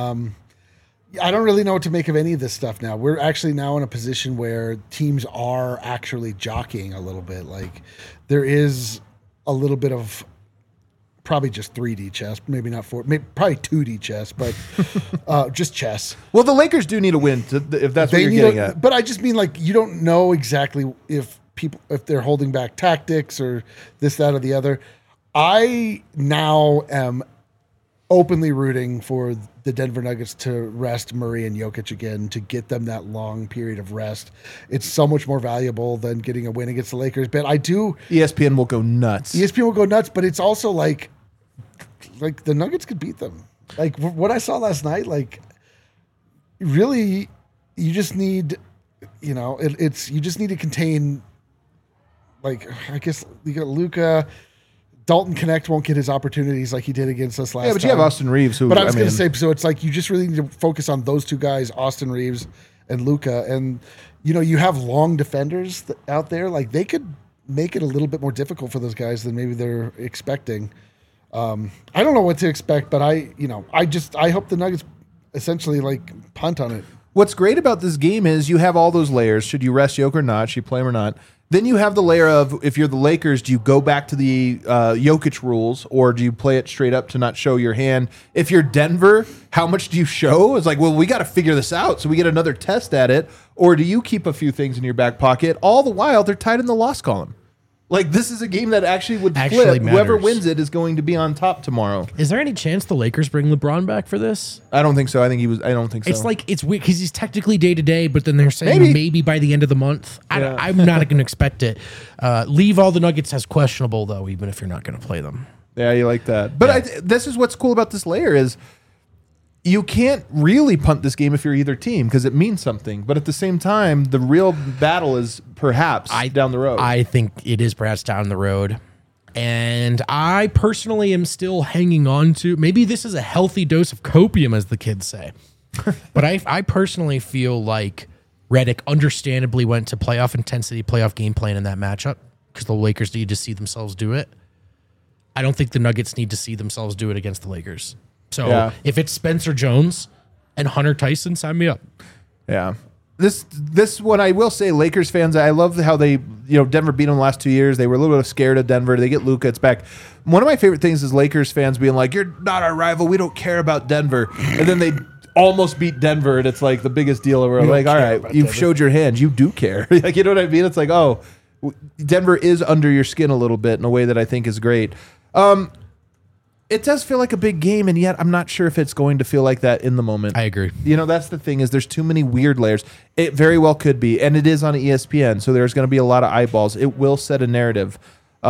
I don't really know what to make of any of this stuff now. We're actually now in a position where teams are actually jockeying a little bit. Like there is a little bit of probably just 3D chess, maybe not 4, maybe probably 2D chess, but just chess. Well, the Lakers do need a win if that's what you're getting at. But I just mean like you don't know exactly if they're holding back tactics or this, that, or the other. I now am openly rooting for the Denver Nuggets to rest Murray and Jokic again to get them that long period of rest. It's so much more valuable than getting a win against the Lakers. But I do. ESPN will go nuts. ESPN will go nuts, but it's also like the Nuggets could beat them. Like what I saw last night, like really, you just need, you just need to contain. Like I guess you got Luka. Dalton Connect won't get his opportunities like he did against us last time. Yeah, but you have Austin Reeves. Who, But I was going to say, so it's like you just really need to focus on those two guys, Austin Reeves and Luka. And, you have long defenders out there. Like they could make it a little bit more difficult for those guys than maybe they're expecting. I don't know what to expect, but I hope the Nuggets essentially like punt on it. What's great about this game is you have all those layers. Should you rest Jokic or not? Should you play him or not? Then you have the layer of, if you're the Lakers, do you go back to the Jokic rules or do you play it straight up to not show your hand? If you're Denver, how much do you show? It's like, well, we got to figure this out so we get another test at it. Or do you keep a few things in your back pocket? All the while, they're tied in the loss column. Like, this is a game that actually would flip. Matters. Whoever wins it is going to be on top tomorrow. Is there any chance the Lakers bring LeBron back for this? I don't think so. I don't think so. It's like, it's weird because he's technically day to day, but then they're saying maybe by the end of the month. I'm not going to expect it. Leave all the Nuggets as questionable, though, even if you're not going to play them. Yeah, you like that. But this is what's cool about this layer is you can't really punt this game if you're either team because it means something. But at the same time, the real battle is perhaps down the road. I think it is perhaps down the road. And I personally am still hanging on to, maybe this is a healthy dose of copium, as the kids say. But I personally feel like Redick understandably went to playoff intensity, playoff game plan in that matchup because the Lakers need to see themselves do it. I don't think the Nuggets need to see themselves do it against the Lakers. So if it's Spencer Jones and Hunter Tyson, sign me up. Yeah. This one I will say, Lakers fans, I love how they, Denver beat them the last 2 years. They were a little bit scared of Denver. They get Luka. It's back. One of my favorite things is Lakers fans being like, you're not our rival. We don't care about Denver. And then they almost beat Denver, and it's like the biggest deal ever. Like, all right, you've showed your hand. You do care. Like, you know what I mean? It's like, oh, Denver is under your skin a little bit in a way that I think is great. It does feel like a big game, and yet I'm not sure if it's going to feel like that in the moment. I agree. That's the thing is there's too many weird layers. It very well could be, and it is on ESPN, so there's going to be a lot of eyeballs. It will set a narrative.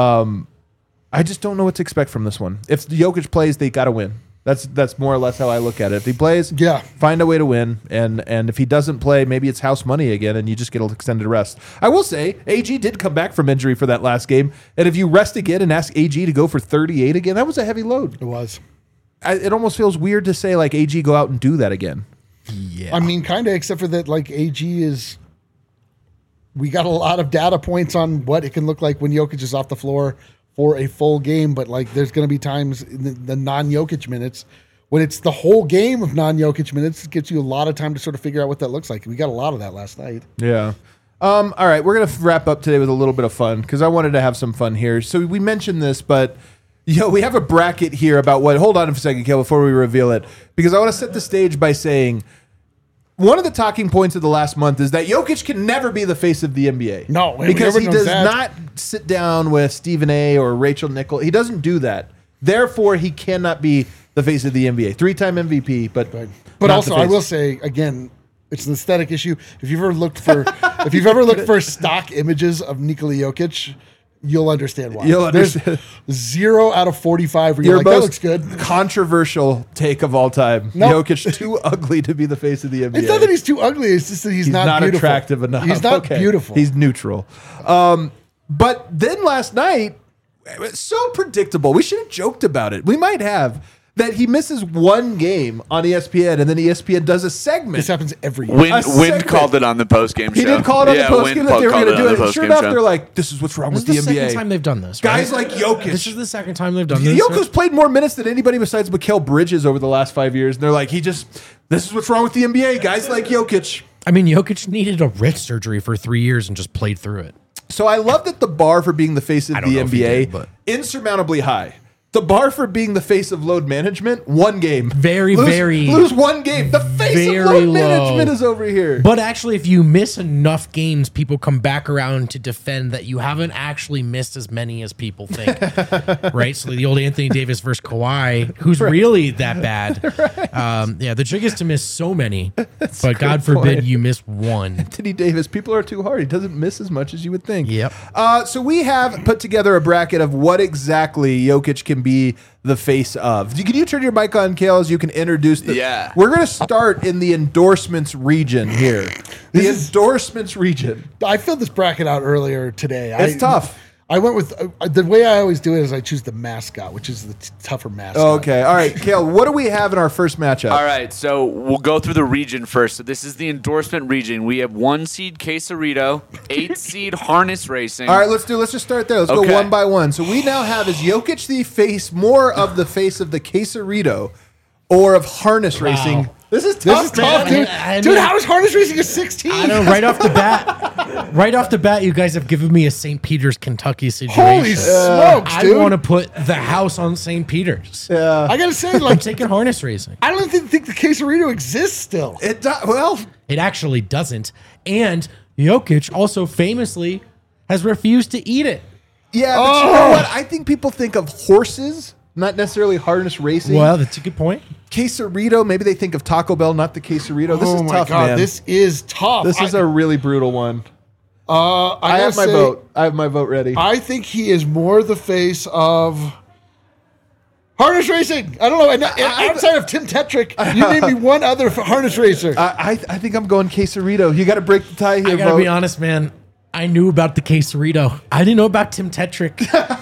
I just don't know what to expect from this one. If Jokic plays, they got to win. That's more or less how I look at it. If he plays, find a way to win, and if he doesn't play, maybe it's house money again, and you just get an extended rest. I will say, AG did come back from injury for that last game, and if you rest again and ask AG to go for 38 again, that was a heavy load. It was. It almost feels weird to say, like, AG go out and do that again. Yeah. I mean, kind of, except for that, like, AG is... We got a lot of data points on what it can look like when Jokic is off the floor for a full game, but like there's going to be times in the non-Jokic minutes when it's the whole game of non-Jokic minutes. It gives you a lot of time to sort of figure out what that looks like. We got a lot of that last night. Yeah. All right, we're going to wrap up today with a little bit of fun because I wanted to have some fun here. So we mentioned this, but we have a bracket here about what. Hold on a second, Kel, before we reveal it, because I want to set the stage by saying one of the talking points of the last month is that Jokic can never be the face of the NBA. No, because he everyone knows does that. not sit down with Stephen A. or Rachel Nichols. He doesn't do that. Therefore, he cannot be the face of the NBA. 3-time MVP, but not also, the I face. will say again, it's an aesthetic issue. If you've ever looked for stock images of Nikola Jokic, you'll understand why. You'll understand. There's 0 out of 45 where Your you're like, that most looks good. controversial take of all time. No. Jokic too ugly to be the face of the NBA. It's not that he's too ugly. It's just that he's not beautiful. attractive enough. He's not Okay. beautiful. He's neutral. But then last night, it was so predictable. We should have joked about it. We might have. That he misses one game on ESPN and then ESPN does a segment. This happens every year. Wind segment. called it on the postgame show. He did call it on the postgame Wind that they were called going to do on it. the And sure postgame enough, show. they're like, this is what's wrong This with is the the NBA. second time they've done this. Guys right? like Jokic. This is the second time they've done this. Jokic's played more minutes than anybody besides Mikal Bridges over the last 5 years. And they're like, this is what's wrong with the NBA. Guys like Jokic. I mean, Jokic needed a wrist surgery for 3 years and just played through it. So I love that the bar for being the face of I don't the know if he NBA did, but- insurmountably high. The bar for being the face of load management, one game. Lose one game. The face very of load low. management is over here. But actually, if you miss enough games, people come back around to defend that you haven't actually missed as many as people think. Right? So the old Anthony Davis versus Kawhi, who's really that bad. Yeah, the trick is to miss so many, but God forbid point. you miss one. Anthony Davis, people are too hard. He doesn't miss as much as you would think. Yep. So we have put together a bracket of what exactly Jokic can be the face of. Can you turn your mic on, Kales? You can introduce the. Yeah. We're going to start in the endorsements region here. The endorsements region. I filled this bracket out earlier today. It's tough. I went with the way I always do it is I choose the mascot, which is the tougher mascot. Okay. All right, Kale, what do we have in our first matchup? All right, so we'll go through the region first. So this is the endorsement region. We have 1 seed Quesarito, 8 seed Harness Racing. All right, let's just start there. Let's Okay. go one by one. So we now have, is Jokic the face, more of the face of the Quesarito or of harness racing? This is tough, This is tough, man. dude. I Dude, mean- how is harness racing a 16? I know, right off the bat, you guys have given me a St. Peter's, Kentucky situation. Holy smokes, I dude. want to put the house on St. Peter's. I gotta say, I'm like, taking harness racing. I don't even think the Quesarito exists still. Well, It actually doesn't. And Jokic also famously has refused to eat it. yeah, but you know what? I think people think of horses, not necessarily harness racing. Well, that's a good point. Quesarito, maybe they think of Taco Bell, not the Quesarito. This Oh is my tough, God, man. this is tough. This is a really brutal one. I I have my gotta say, vote. I have my vote ready. I think he is more the face of harness racing. I don't know. And outside of Tim Tetrick, you name me one other harness racer. I think I'm going Quesarito. You got to break the tie here, I gotta vote. be honest, man. I knew about the Quesarito. I didn't know about Tim Tetrick.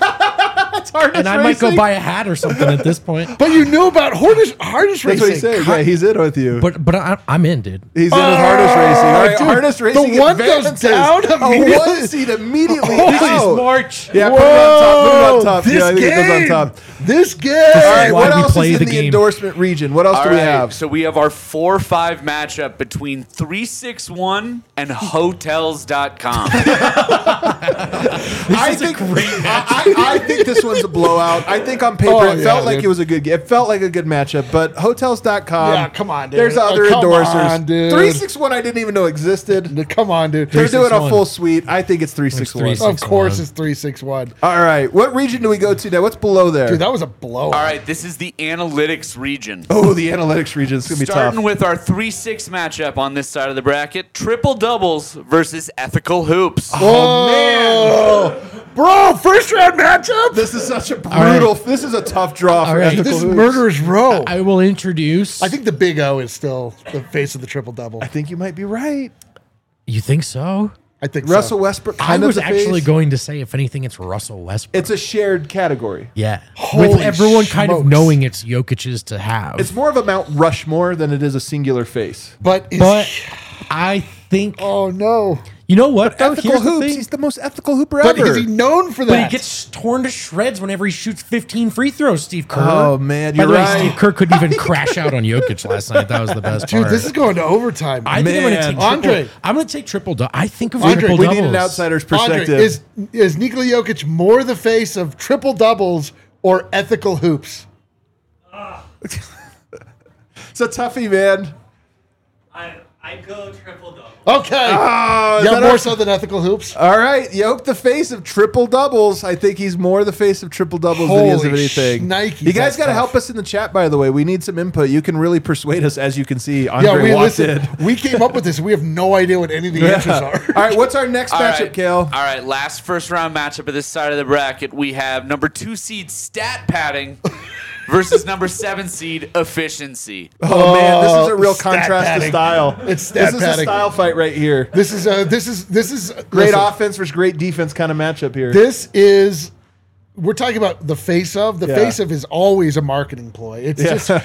Harness And I might go racing? buy a hat or something at this point. But you knew about harness That's racing. what he said. Yeah, he's in with you. But I'm in, dude. He's in with harness racing. All right, dude, harness racing. the one goes advances. down A immediately. 1 seed immediately. This is out. March. Yeah, put it on top. Put it on top. This Yeah, I think it goes on game. top. This game. All right, why what we else play is in the the game. endorsement region? What else All do we right, have? so we have our 4-5 matchup between 361 and Hotels.com. I think I think this one's a blowout. I think on paper Oh, it felt yeah, like dude. it was a good. It felt like a good matchup. But Hotels.com. Yeah, come on, dude. There's Oh, other come endorsers. on, dude. 361 I didn't even know existed. Come on, dude. They're doing a 361. full suite. I think it's 361. It's Of course, 6-1. it's 361. All right, what region do we go to now? What's below there? Dude, that was a blowout. All right, this is the analytics region. Oh, the analytics region. It's gonna be Starting tough. with our 3-6 matchup on this side of the bracket, triple doubles versus ethical hoops. Oh, man. Bro, first round matchup? This is such a brutal. This is a tough draw for right. ethical This is hoops. murderer's row. I will introduce. I think the Big O is still the face of the triple double. I think you might be right. You think so? I think Russell so. Westbrook. I Kind of was the actually face. going to say, if anything, it's Russell Westbrook. It's a shared category. Yeah. Holy With everyone kind of smokes. knowing it's Jokic's to have. It's more of a Mount Rushmore than it is a singular face. But, is, but I think, oh no. you know what? though? Ethical Here's the hoops. thing. He's the most ethical hooper But ever. is he known for But that? he gets torn to shreds whenever he shoots 15 free throws, Steve Kerr. Oh, man, By you're the way, right. Steve Kerr couldn't even crash out on Jokic last night. That was the best Dude, part. this is going to overtime. I think I'm going to Man. take Andre. I'm going to take triple double. I think of Andre, triple we doubles. need an outsider's Andre, perspective. is Nikola Jokic more the face of triple doubles or ethical hoops? It's a toughie, man. I go triple double. Okay. Oh, is Yeah, that more our- so than ethical hoops. All right, Yoke, the face of triple doubles. I think he's more the face of triple doubles than he is of Holy anything. shnikes, You guys that's got to tough. help us in the chat, by the way. We need some input. You can really persuade us, as you can see. Yeah, Andre we walked listen. in. We came up with this. We have no idea what any of the answers are. All right, what's our next All matchup, right. Kale? All right, last first round matchup of this side of the bracket. We have number 2 seed Stat Padding versus number 7 seed Efficiency. Oh, man, this is a real stat contrast padding. to style. It's stat This is a padding. style fight right here. This is Great listen, offense versus great defense kind of matchup here. This is. We're talking about the face of. The Yeah. face of is always a marketing ploy. It's Yeah. just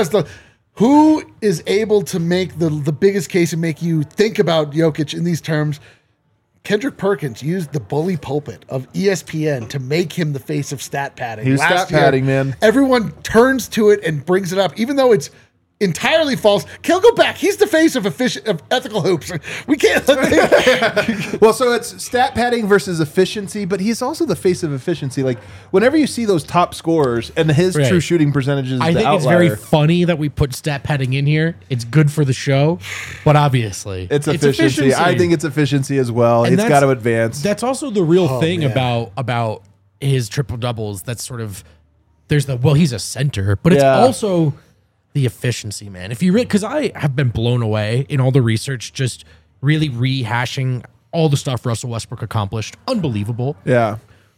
who is able to make the biggest case and make you think about Jokic in these terms. Kendrick Perkins used the bully pulpit of ESPN to make him the face of stat padding. He was Last stat padding, man. Everyone turns to it and brings it up, even though it's entirely false. Kel, go back. He's the face of ethical hoops. We can't. Well, so it's stat padding versus efficiency, but he's also the face of efficiency. Like, whenever you see those top scorers and his Right. true shooting percentages, is I the think it's outlier. very funny that we put stat padding in here. It's good for the show, but obviously It's efficiency. I think it's efficiency as well. And It's that's- got to advance. That's also the real thing man. about his triple doubles. That's sort of there's he's a center, but it's Yeah. also the efficiency, man. If you because I have been blown away in all the research, just really rehashing all the stuff Russell Westbrook accomplished. Unbelievable. Yeah.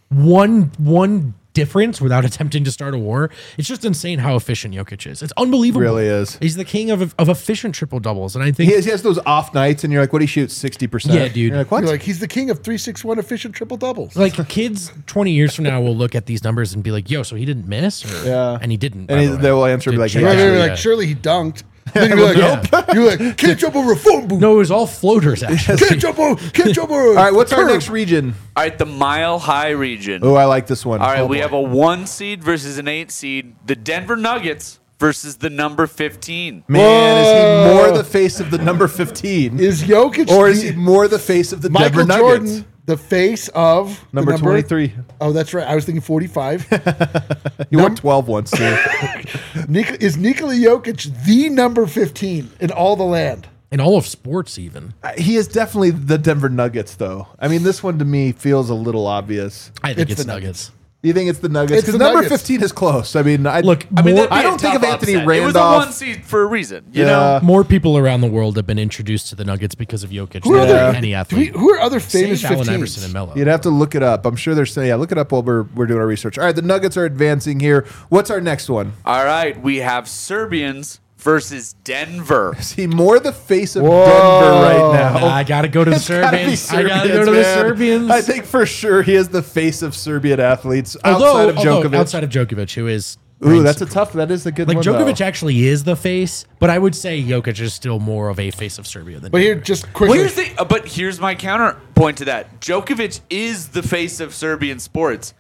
One difference without attempting to start a war. It's just insane how efficient Jokic is. It's unbelievable. Really is. He's the king of efficient triple doubles, and I think He has those off nights, and you're like, what do you shoot? 60%. Yeah, dude. You're like, what? You're like, he's the king of 3-6-1 efficient triple doubles. like kids 20 years from now will look at these numbers and be like, "Yo, so he didn't miss?" Or, Yeah. and he didn't. by And the way. they will answer and be like, Did yeah, Right, Jay right, actually, right, like, surely he dunked. Then you're like, you're like, can't jump over a phone booth. No, it was all floaters actually. Can't jump over. All right, what's our curb. next region? All right, the Mile High region. Oh, I like this one. All right, Oh, we boy. have a 1 seed versus an 8 seed. The Denver Nuggets versus the number 15. Man, is he more the face of the number 15? Is Jokic Or is he more the face of the Michael Denver Nuggets? Jordan the face of the Number 23. Oh, that's right. I was thinking 45. He won 12 once, too. Is Nikola Jokic the number 15 in all the land? In all of sports, even. He is definitely the Denver Nuggets, though. I mean, this one to me feels a little obvious. I think It's it's the Nuggets. You think it's the Nuggets? It's Because the number Nuggets. 15 is close. I mean, Look, I mean, that'd be I a don't think tough of Anthony upset. It was a Randolph. 1 seed for a reason, you Yeah. know? more people around the world have been introduced to the Nuggets because of Jokic Who are than there? any athlete. Who are other famous Save Allen Iverson 15s? and Melo. You'd have to look it up. I'm sure they're saying, yeah, look it up while we're doing our research. All right, the Nuggets are advancing here. What's our next one? All right, we have Serbians versus Denver. Is he more the face of Whoa. Denver right now? I gotta go to the It's gotta be Serbians. I gotta go to the man. Serbians. I think for sure he is the face of Serbian athletes Although outside of Djokovic. outside of Djokovic, who is Ooh, that is a good like one. Djokovic though. actually is the face, but I would say Jokic is still more of a face of Serbia than. But here, Denver. just Well, quickly. here's my counterpoint to that. Djokovic is the face of Serbian sports.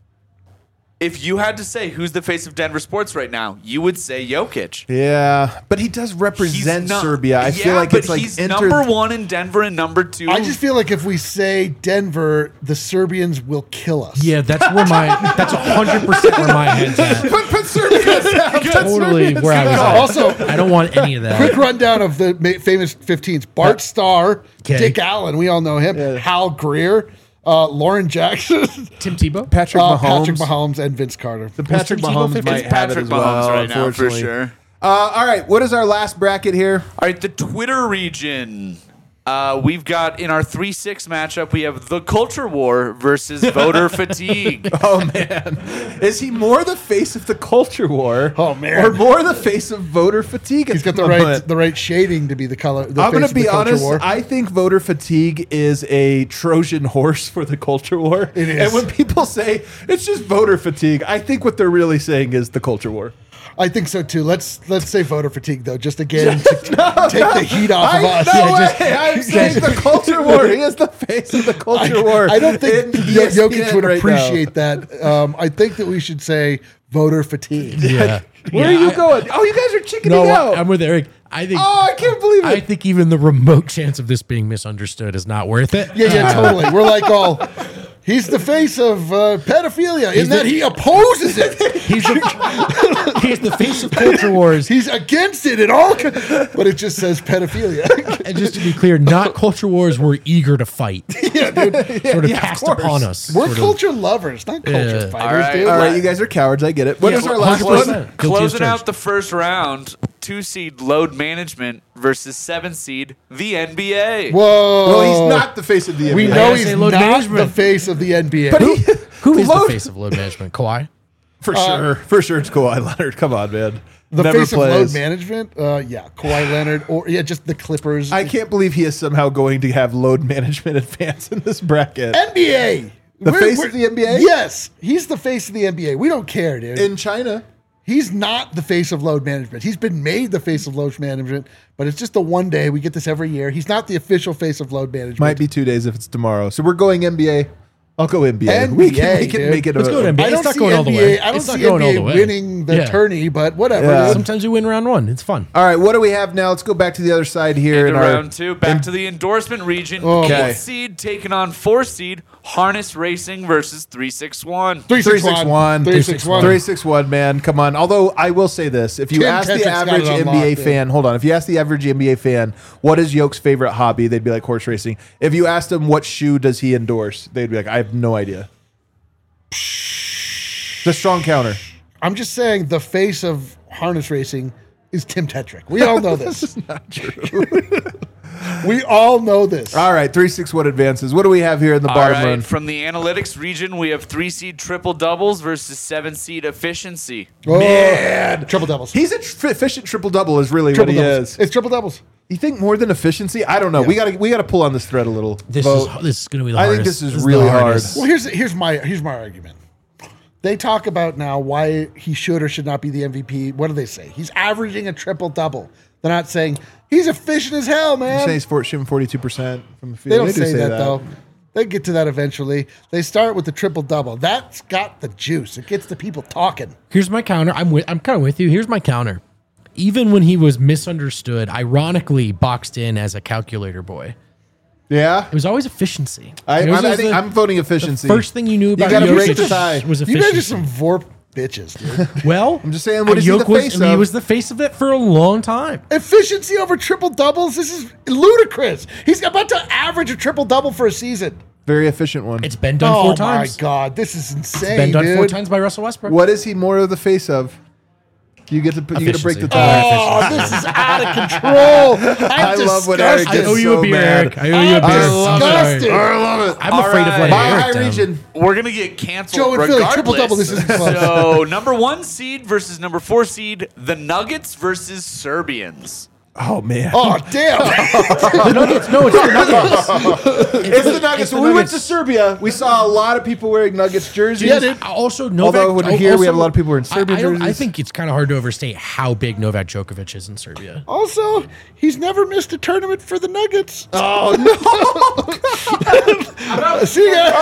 If you had to say who's the face of Denver sports right now, you would say Jokic. Yeah, but he does represent not- Serbia. I feel like but it's like he's number 1 in Denver and number 2. I just feel like if we say Denver, the Serbians will kill us. yeah, that's 100% where my head's at. Put Serbia down. Totally where I was at. Also, I don't want any of quick that. rundown of the famous 15s. Bart Starr, Okay. Dick Allen, we all know him. Hal Greer, Lauren Jackson, Tim Tebow. Patrick Mahomes. Patrick Mahomes, and Vince Carter. The Patrick Tim Tebow Mahomes 50? might It's have it Patrick as well, Mahomes right now, for unfortunately. sure. All right, what is our last bracket here? All right, the Twitter region. We've got in our 3-6 matchup, we have the culture war versus voter fatigue. Oh man, is he more the face of the culture war? Oh, man. or more the face of voter fatigue? He's got the right shading to be the color. The I'm face going of to the be culture honest. war. I think voter fatigue is a Trojan horse for the culture war. It is. And when people say it's just voter fatigue, I think what they're really saying is the culture war. I think so too. Let's say voter fatigue though, just again to take the heat off of us. No Yeah, way. I'm saying the culture war. He is the face of the culture war. I don't think in Jokic ESPN would right now. appreciate that. I think that we should say voter fatigue. Yeah. Where are you going? Oh, you guys are chickening No, out. I'm with Eric. I think. Oh, I can't believe it. I think even the remote chance of this being misunderstood is not worth it. Yeah, totally. We're like all. He's the face of pedophilia in that he opposes it. He's the, He's the face of Culture Wars. He's against it at all, but it just says pedophilia. And just to be clear, not Culture Wars were eager to fight. Yeah, dude. Sort of Yeah, of cast course. upon us. We're sort of. culture lovers, not culture Yeah. fighters, All right, dude. All Like, right, you guys are cowards. I get it. What Yeah, is our well, last 100%. one? Guilty as Closing charged. out the first round, 2-seed Load Management versus 7-seed the NBA. Whoa. Well, he's not the face of the NBA. We know gotta he's say not load the management. face of the NBA. But he, Who is Load- the face of load management? Kawhi? For sure. For sure, it's Kawhi Leonard. Come on, man. The Never face plays. of load management? Yeah, Kawhi Leonard, or just the Clippers. I can't believe he is somehow going to have load management advance in this bracket. NBA. The face of the NBA? Yes, he's the face of the NBA. We don't care, dude. In China. He's not the face of load management. He's been made the face of load management, but it's just the one day. We get this every year. He's not the official face of load management. Might be 2 days if it's tomorrow. So we're going NBA. I'll go NBA. NBA, we can dude. make it. Let's go to NBA. I It's don't not see going all the NBA. way. I don't It's see not going all NBA the way. winning the Yeah. tourney, but whatever. Yeah. dude. Sometimes we win round one. It's fun. All right, what do we have now? Let's go back to the other side here. Into in our, round 2, back to the endorsement region. Okay. 8-seed taking on 4-seed Harness Racing versus 361. 361. 361. 361, man. Come on. Although I will say this, if you Tim ask the Tetric's got average it unlocked, NBA dude. fan, hold on. If you ask the average NBA fan, what is Yoke's favorite hobby? They'd be like horse racing. If you asked them what shoe does he endorse, they'd be like, I have no idea. It's a strong counter. I'm just saying the face of harness racing is Tim Tetrick. We all know this. Not true. We all know this. All right, 361 advances. What do we have here in the All bottom right, run? from the analytics region, we have 3-seed Triple Doubles versus 7-seed Efficiency. Oh, Man. triple doubles. He's an efficient triple double is really triple what he doubles. is. It's triple doubles. You think more than efficiency? I don't know. Yeah. We gotta pull on this thread a little. This Vote. is going to be the I hardest. think this is the really hardest. hard. Well, here's my argument. They talk about now why he should or should not be the MVP. What do they say? He's averaging a triple double. They're not saying he's efficient as hell, You man. say he's shooting 42% from the field. They don't do say that though. They get to that eventually. They start with the triple double. That's got the juice. It gets the people talking. Here's my counter. I'm kind of with you. Here's my counter. Even when he was misunderstood, ironically boxed in as a calculator boy, Yeah, it was always efficiency. I It was think the I'm voting efficiency. first thing you knew about gotta Jokic break the tie. was You efficiency. guys are some Vorp bitches, dude. Well, I'm just saying, what is he the face He of? was the face of it for a long time. Efficiency over triple doubles. This is ludicrous. He's about to average a triple double for a season. Very efficient one. It's been done Oh 4 my times. god, this is insane. Been done dude. 4 times by Russell Westbrook. What is he more of the face of? You get to break the Efficiency. tie. Oh, this is out of control. I I'm love what Eric I gets owe you so a beer, mad. Eric. I owe you a beer. I'm disgusted. sorry. I love it. I'm All afraid of right. letting Buy Eric high down. region. We're going to get canceled Joe and Philly, regardless. triple double, this isn't close. So, number 1 seed versus number 4 seed, the Nuggets versus Serbians. Oh man. Oh damn! The Nuggets. No, it's the Nuggets. It's the Nuggets. the When we went to Nuggets. Serbia, we saw a lot of people wearing Nuggets jerseys. Yeah, dude. Also, Novak. Although when here we have a lot of people wearing Serbian I don't- I jerseys. think it's kind of hard to overstate how big Novak Djokovic is in Serbia. Also, he's never missed a tournament for the Nuggets. Oh no! See you guys.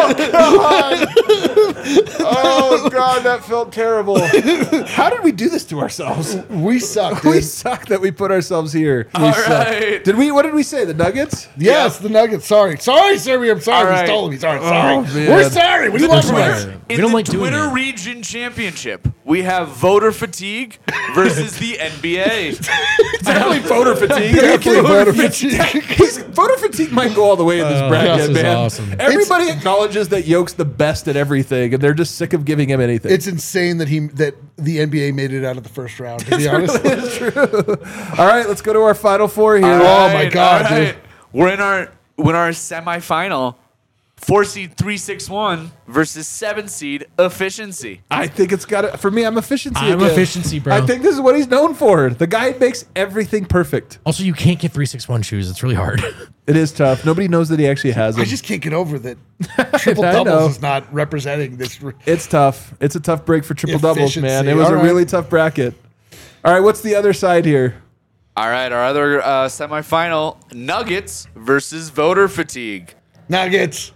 Oh god, that felt terrible. How did we do this to ourselves? We suck, We dude. suck that we put ourselves here. All right. Did we? What did we say? The Nuggets? Yes, the Nuggets. Sorry, Serbia. I'm sorry. All We right. stole him. Sorry. man. We're sorry. What do you want from us? We In don't the like doing Twitter it. Region Championship, we have voter fatigue versus the NBA. Definitely voter fatigue. Definitely voter fatigue. Voter fatigue might go all the way in this bracket, this is man. awesome. Everybody acknowledges that Yoke's the best at everything, and they're just sick of giving him anything. It's insane that the NBA made it out of the first round. To be honest, All right, let's go to our final 4 here. Oh, my God, dude. We're in our semifinal. 4 seed 361 versus 7 seed Efficiency. I think it's got to, for me, I'm efficiency. I'm again. efficiency, bro. I think this is what he's known for. The guy makes everything perfect. Also, you can't get 361 shoes. It's really hard. It is tough. Nobody knows that he actually has them. I just can't get over that triple I know. doubles is not representing this. It's tough. It's a tough break for triple doubles, man. Efficiency. It was All a right. really tough bracket. All right, what's the other side here? All right, our other semifinal, Nuggets versus Voter Fatigue. Nuggets.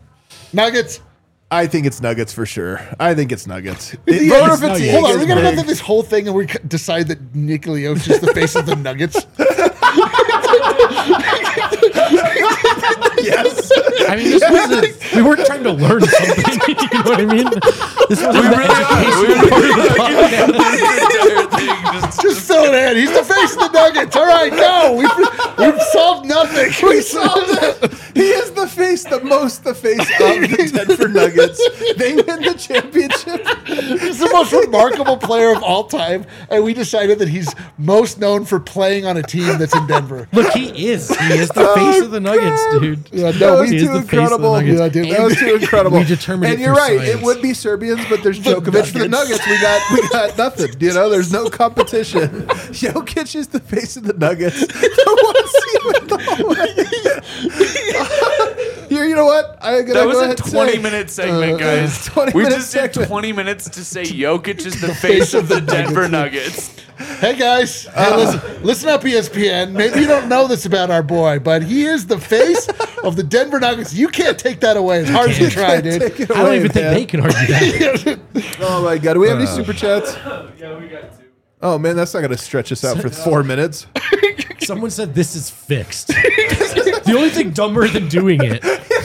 I think it's Nuggets for sure. I think it's Nuggets. Yeah, Voter it's fatigue. Nuggets. Hold on, is we gotta go big. through this whole thing and we decide that Nikola Jokic is the face of the Nuggets. Yes. I mean, this wasn't. We weren't trying to learn something. You know what I mean? This wasn't the educational part of the podcast. Shanahan. He's the face of the Nuggets. All right, go. We've solved nothing. We solved it. He is the face of the Denver Nuggets. They win the championship. He's the most remarkable player of all time, and we decided that he's most known for playing on a team that's in Denver. Look, he is the face of the Nuggets, dude. Yeah, That no, was He is too the face of the incredible. Nuggets. Yeah, dude. That was too incredible. We determined and it you're through right. science. It would be Serbians, but there's Djokovic for the Nuggets. Nuggets. We got nothing. You know, there's no competition. Jokic is the face of the Nuggets. Here, you know what? I'm gonna That was go a ahead and 20-minute segment, guys. 20 we minute just did segment. 20 minutes to say Jokic is the face of the Denver Nuggets. Hey guys, listen up, ESPN. Maybe you don't know this about our boy, but he is the face of the Denver Nuggets. You can't take that away as hard as you try, dude. Take it I don't away, even think man. they can argue that. Oh my god, do we have any super chats? Yeah, we got two. Oh man, that's not gonna stretch us out for 4 minutes. Someone said this is fixed. The only thing dumber than doing it.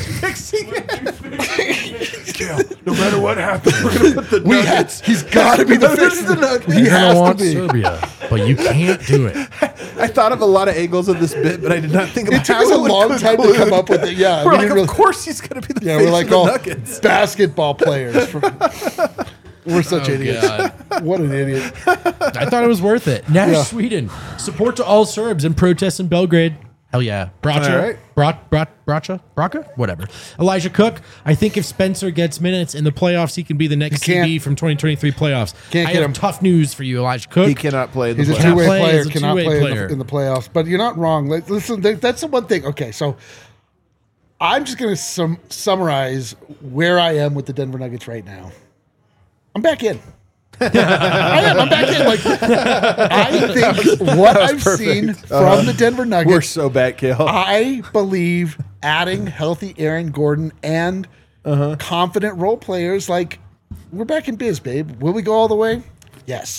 No matter what happens, we're gonna put the Nuggets. He's got to be the face of the Nuggets. He You're has gonna to want be. Serbia, but you can't do it. I thought of a lot of angles of this bit, but I did not think about It took how us a it would long time to conclude. come up with it. Yeah, We're we like, didn't of really- course he's gonna be the Yeah, face we're like of the all Nuggets. basketball players. We're such idiots. God. What an idiot. I thought it was worth it. Nash, Yeah. Sweden. Support to all Serbs and protests in Belgrade. Hell yeah. Bracha. Bracha? Whatever. Elijah Cook. I think if Spencer gets minutes in the playoffs, he can be the next He can't. CB from 2023 playoffs. Can't I get have him. tough news for you, Elijah Cook. He cannot play in the He's a playoffs. two-way play player. as a Cannot two-way play player. in the playoffs. But you're not wrong. Like, listen, that's the one thing. Okay, so I'm just going to summarize where I am with the Denver Nuggets right now. I'm back in. I am. I'm back in. Like, I think what I've seen from the Denver Nuggets. We're so bad, Kale. I believe adding healthy Aaron Gordon and confident role players, like, we're back in biz, babe. Will we go all the way? Yes.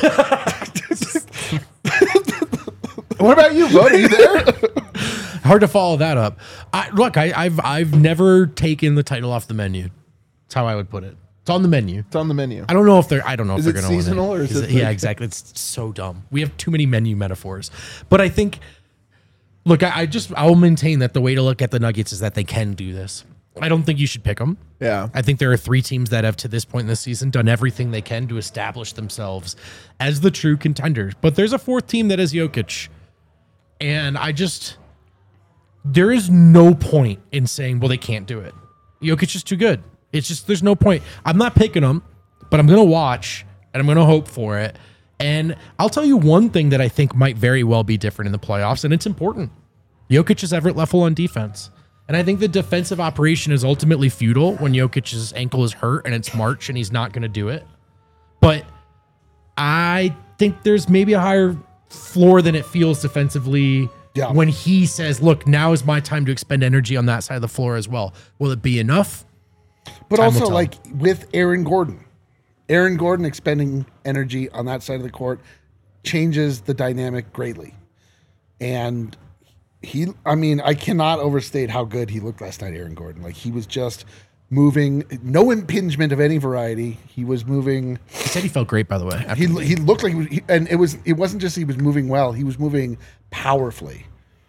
What about you, Bo? Are you there? Hard to follow that up. I've never taken the title off the menu. That's how I would put it. It's on the menu. It's on the menu. I don't know if they're going to it win it. seasonal or is it Yeah, like- exactly. It's so dumb. We have too many menu metaphors. But I think, look, I'll maintain that the way to look at the Nuggets is that they can do this. I don't think you should pick them. Yeah. I think there are 3 teams that have, to this point in the season, done everything they can to establish themselves as the true contenders. But there's a 4th team that is Jokic. And there is no point in saying, well, they can't do it. Jokic is too good. It's just, there's no point. I'm not picking them, but I'm going to watch and I'm going to hope for it. And I'll tell you one thing that I think might very well be different in the playoffs, and it's important. Jokic is Everett Leffel on defense. And I think the defensive operation is ultimately futile when Jokic's ankle is hurt and it's March and he's not going to do it. But I think there's maybe a higher floor than it feels defensively when he says, look, now is my time to expend energy on that side of the floor as well. Will it be enough? But Time will also, tell. like, with Aaron Gordon expending energy on that side of the court changes the dynamic greatly. And I cannot overstate how good he looked last night, Aaron Gordon. Like, he was just moving, no impingement of any variety. He was moving. He said he felt great, by the way. He looked like it wasn't just he was moving well. He was moving powerfully,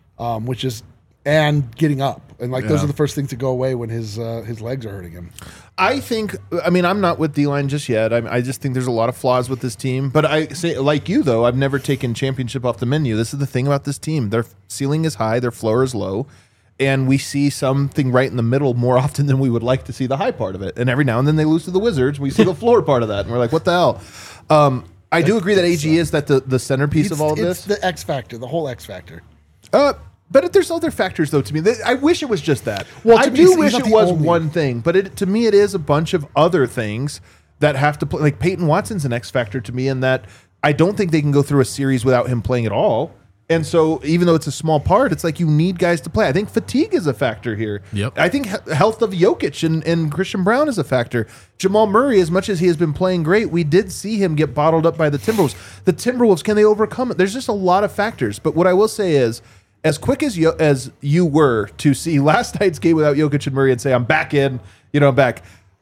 and getting up. And those are the first things to go away when his legs are hurting him. I think, I'm not with D-Line just yet. I just think there's a lot of flaws with this team. But I say, like you, though, I've never taken championship off the menu. This is the thing about this team. Their ceiling is high, their floor is low. And we see something right in the middle more often than we would like to see the high part of it. And every now and then they lose to the Wizards. We see the floor part of that. And we're like, what the hell? I do agree that AG is the centerpiece of all of this. It's the X factor, the whole X factor. But there's other factors, though, to me. I wish it was just that. Well, I to me, do he's wish not it the was only. one thing, but to me, it is a bunch of other things that have to play. Like Peyton Watson's an X factor to me in that I don't think they can go through a series without him playing at all. And so even though it's a small part, it's like you need guys to play. I think fatigue is a factor here. Yep. I think health of Jokic and Christian Brown is a factor. Jamal Murray, as much as he has been playing great, we did see him get bottled up by the Timberwolves. The Timberwolves, can they overcome it? There's just a lot of factors. But what I will say is, as quick as you were to see last night's game without Jokic and Murray and say, I'm back in, I'm back.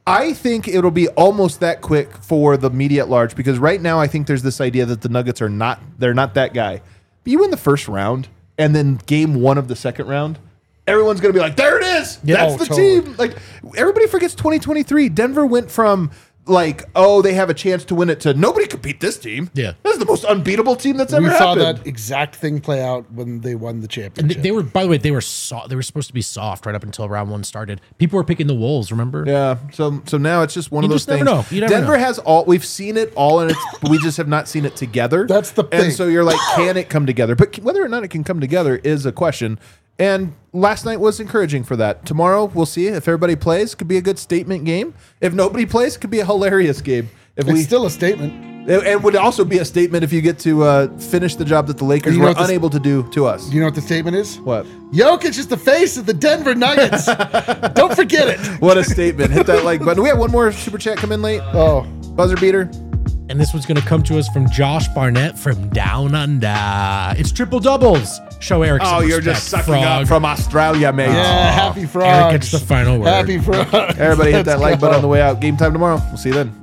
I think it'll be almost that quick for the media at large because right now I think there's this idea that the Nuggets are not that guy. But you win the first round and then game 1 of the second round, everyone's going to be like, there it is. Yeah. That's the team. Like everybody forgets 2023. Denver went from like, oh, they have a chance to win it to nobody could beat this team. Yeah. This is the most unbeatable team that's ever We saw happened. that exact thing play out when they won the And championship. they were, by the way, they were supposed to be soft right up until round 1 started. People were picking the Wolves, remember? Yeah, so now it's just one of You those just never things. know. You never Denver know. has all we've seen it all, and we just have not seen it together. That's the thing. And so you're like, can it come together? But whether or not it can come together is a question. And last night was encouraging for that. Tomorrow we'll see if everybody plays. Could be a good statement game. If nobody plays, it could be a hilarious game. If It's still a statement. it would also be a statement if you get to finish the job that the Lakers You know were what this- unable to do to us. Do you know what the statement is? What? Jokic is the face of the Denver Nuggets. Don't forget it. What a statement! Hit that like button. We have one more super chat come in late. Oh, Buzzer beater. And this one's going to come to us from Josh Barnett from Down Under. It's triple doubles. Show Eric some Oh, you're respect, just sucking frog. up from Australia, mate. yeah. Happy frogs. Eric gets the final word. Happy frogs. Everybody hit that Let's like button go. on the way out. Game time tomorrow. We'll see you then.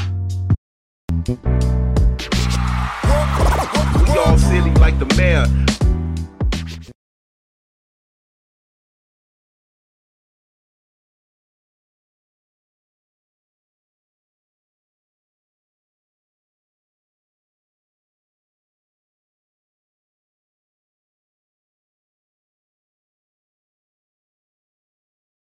We all silly like the mayor.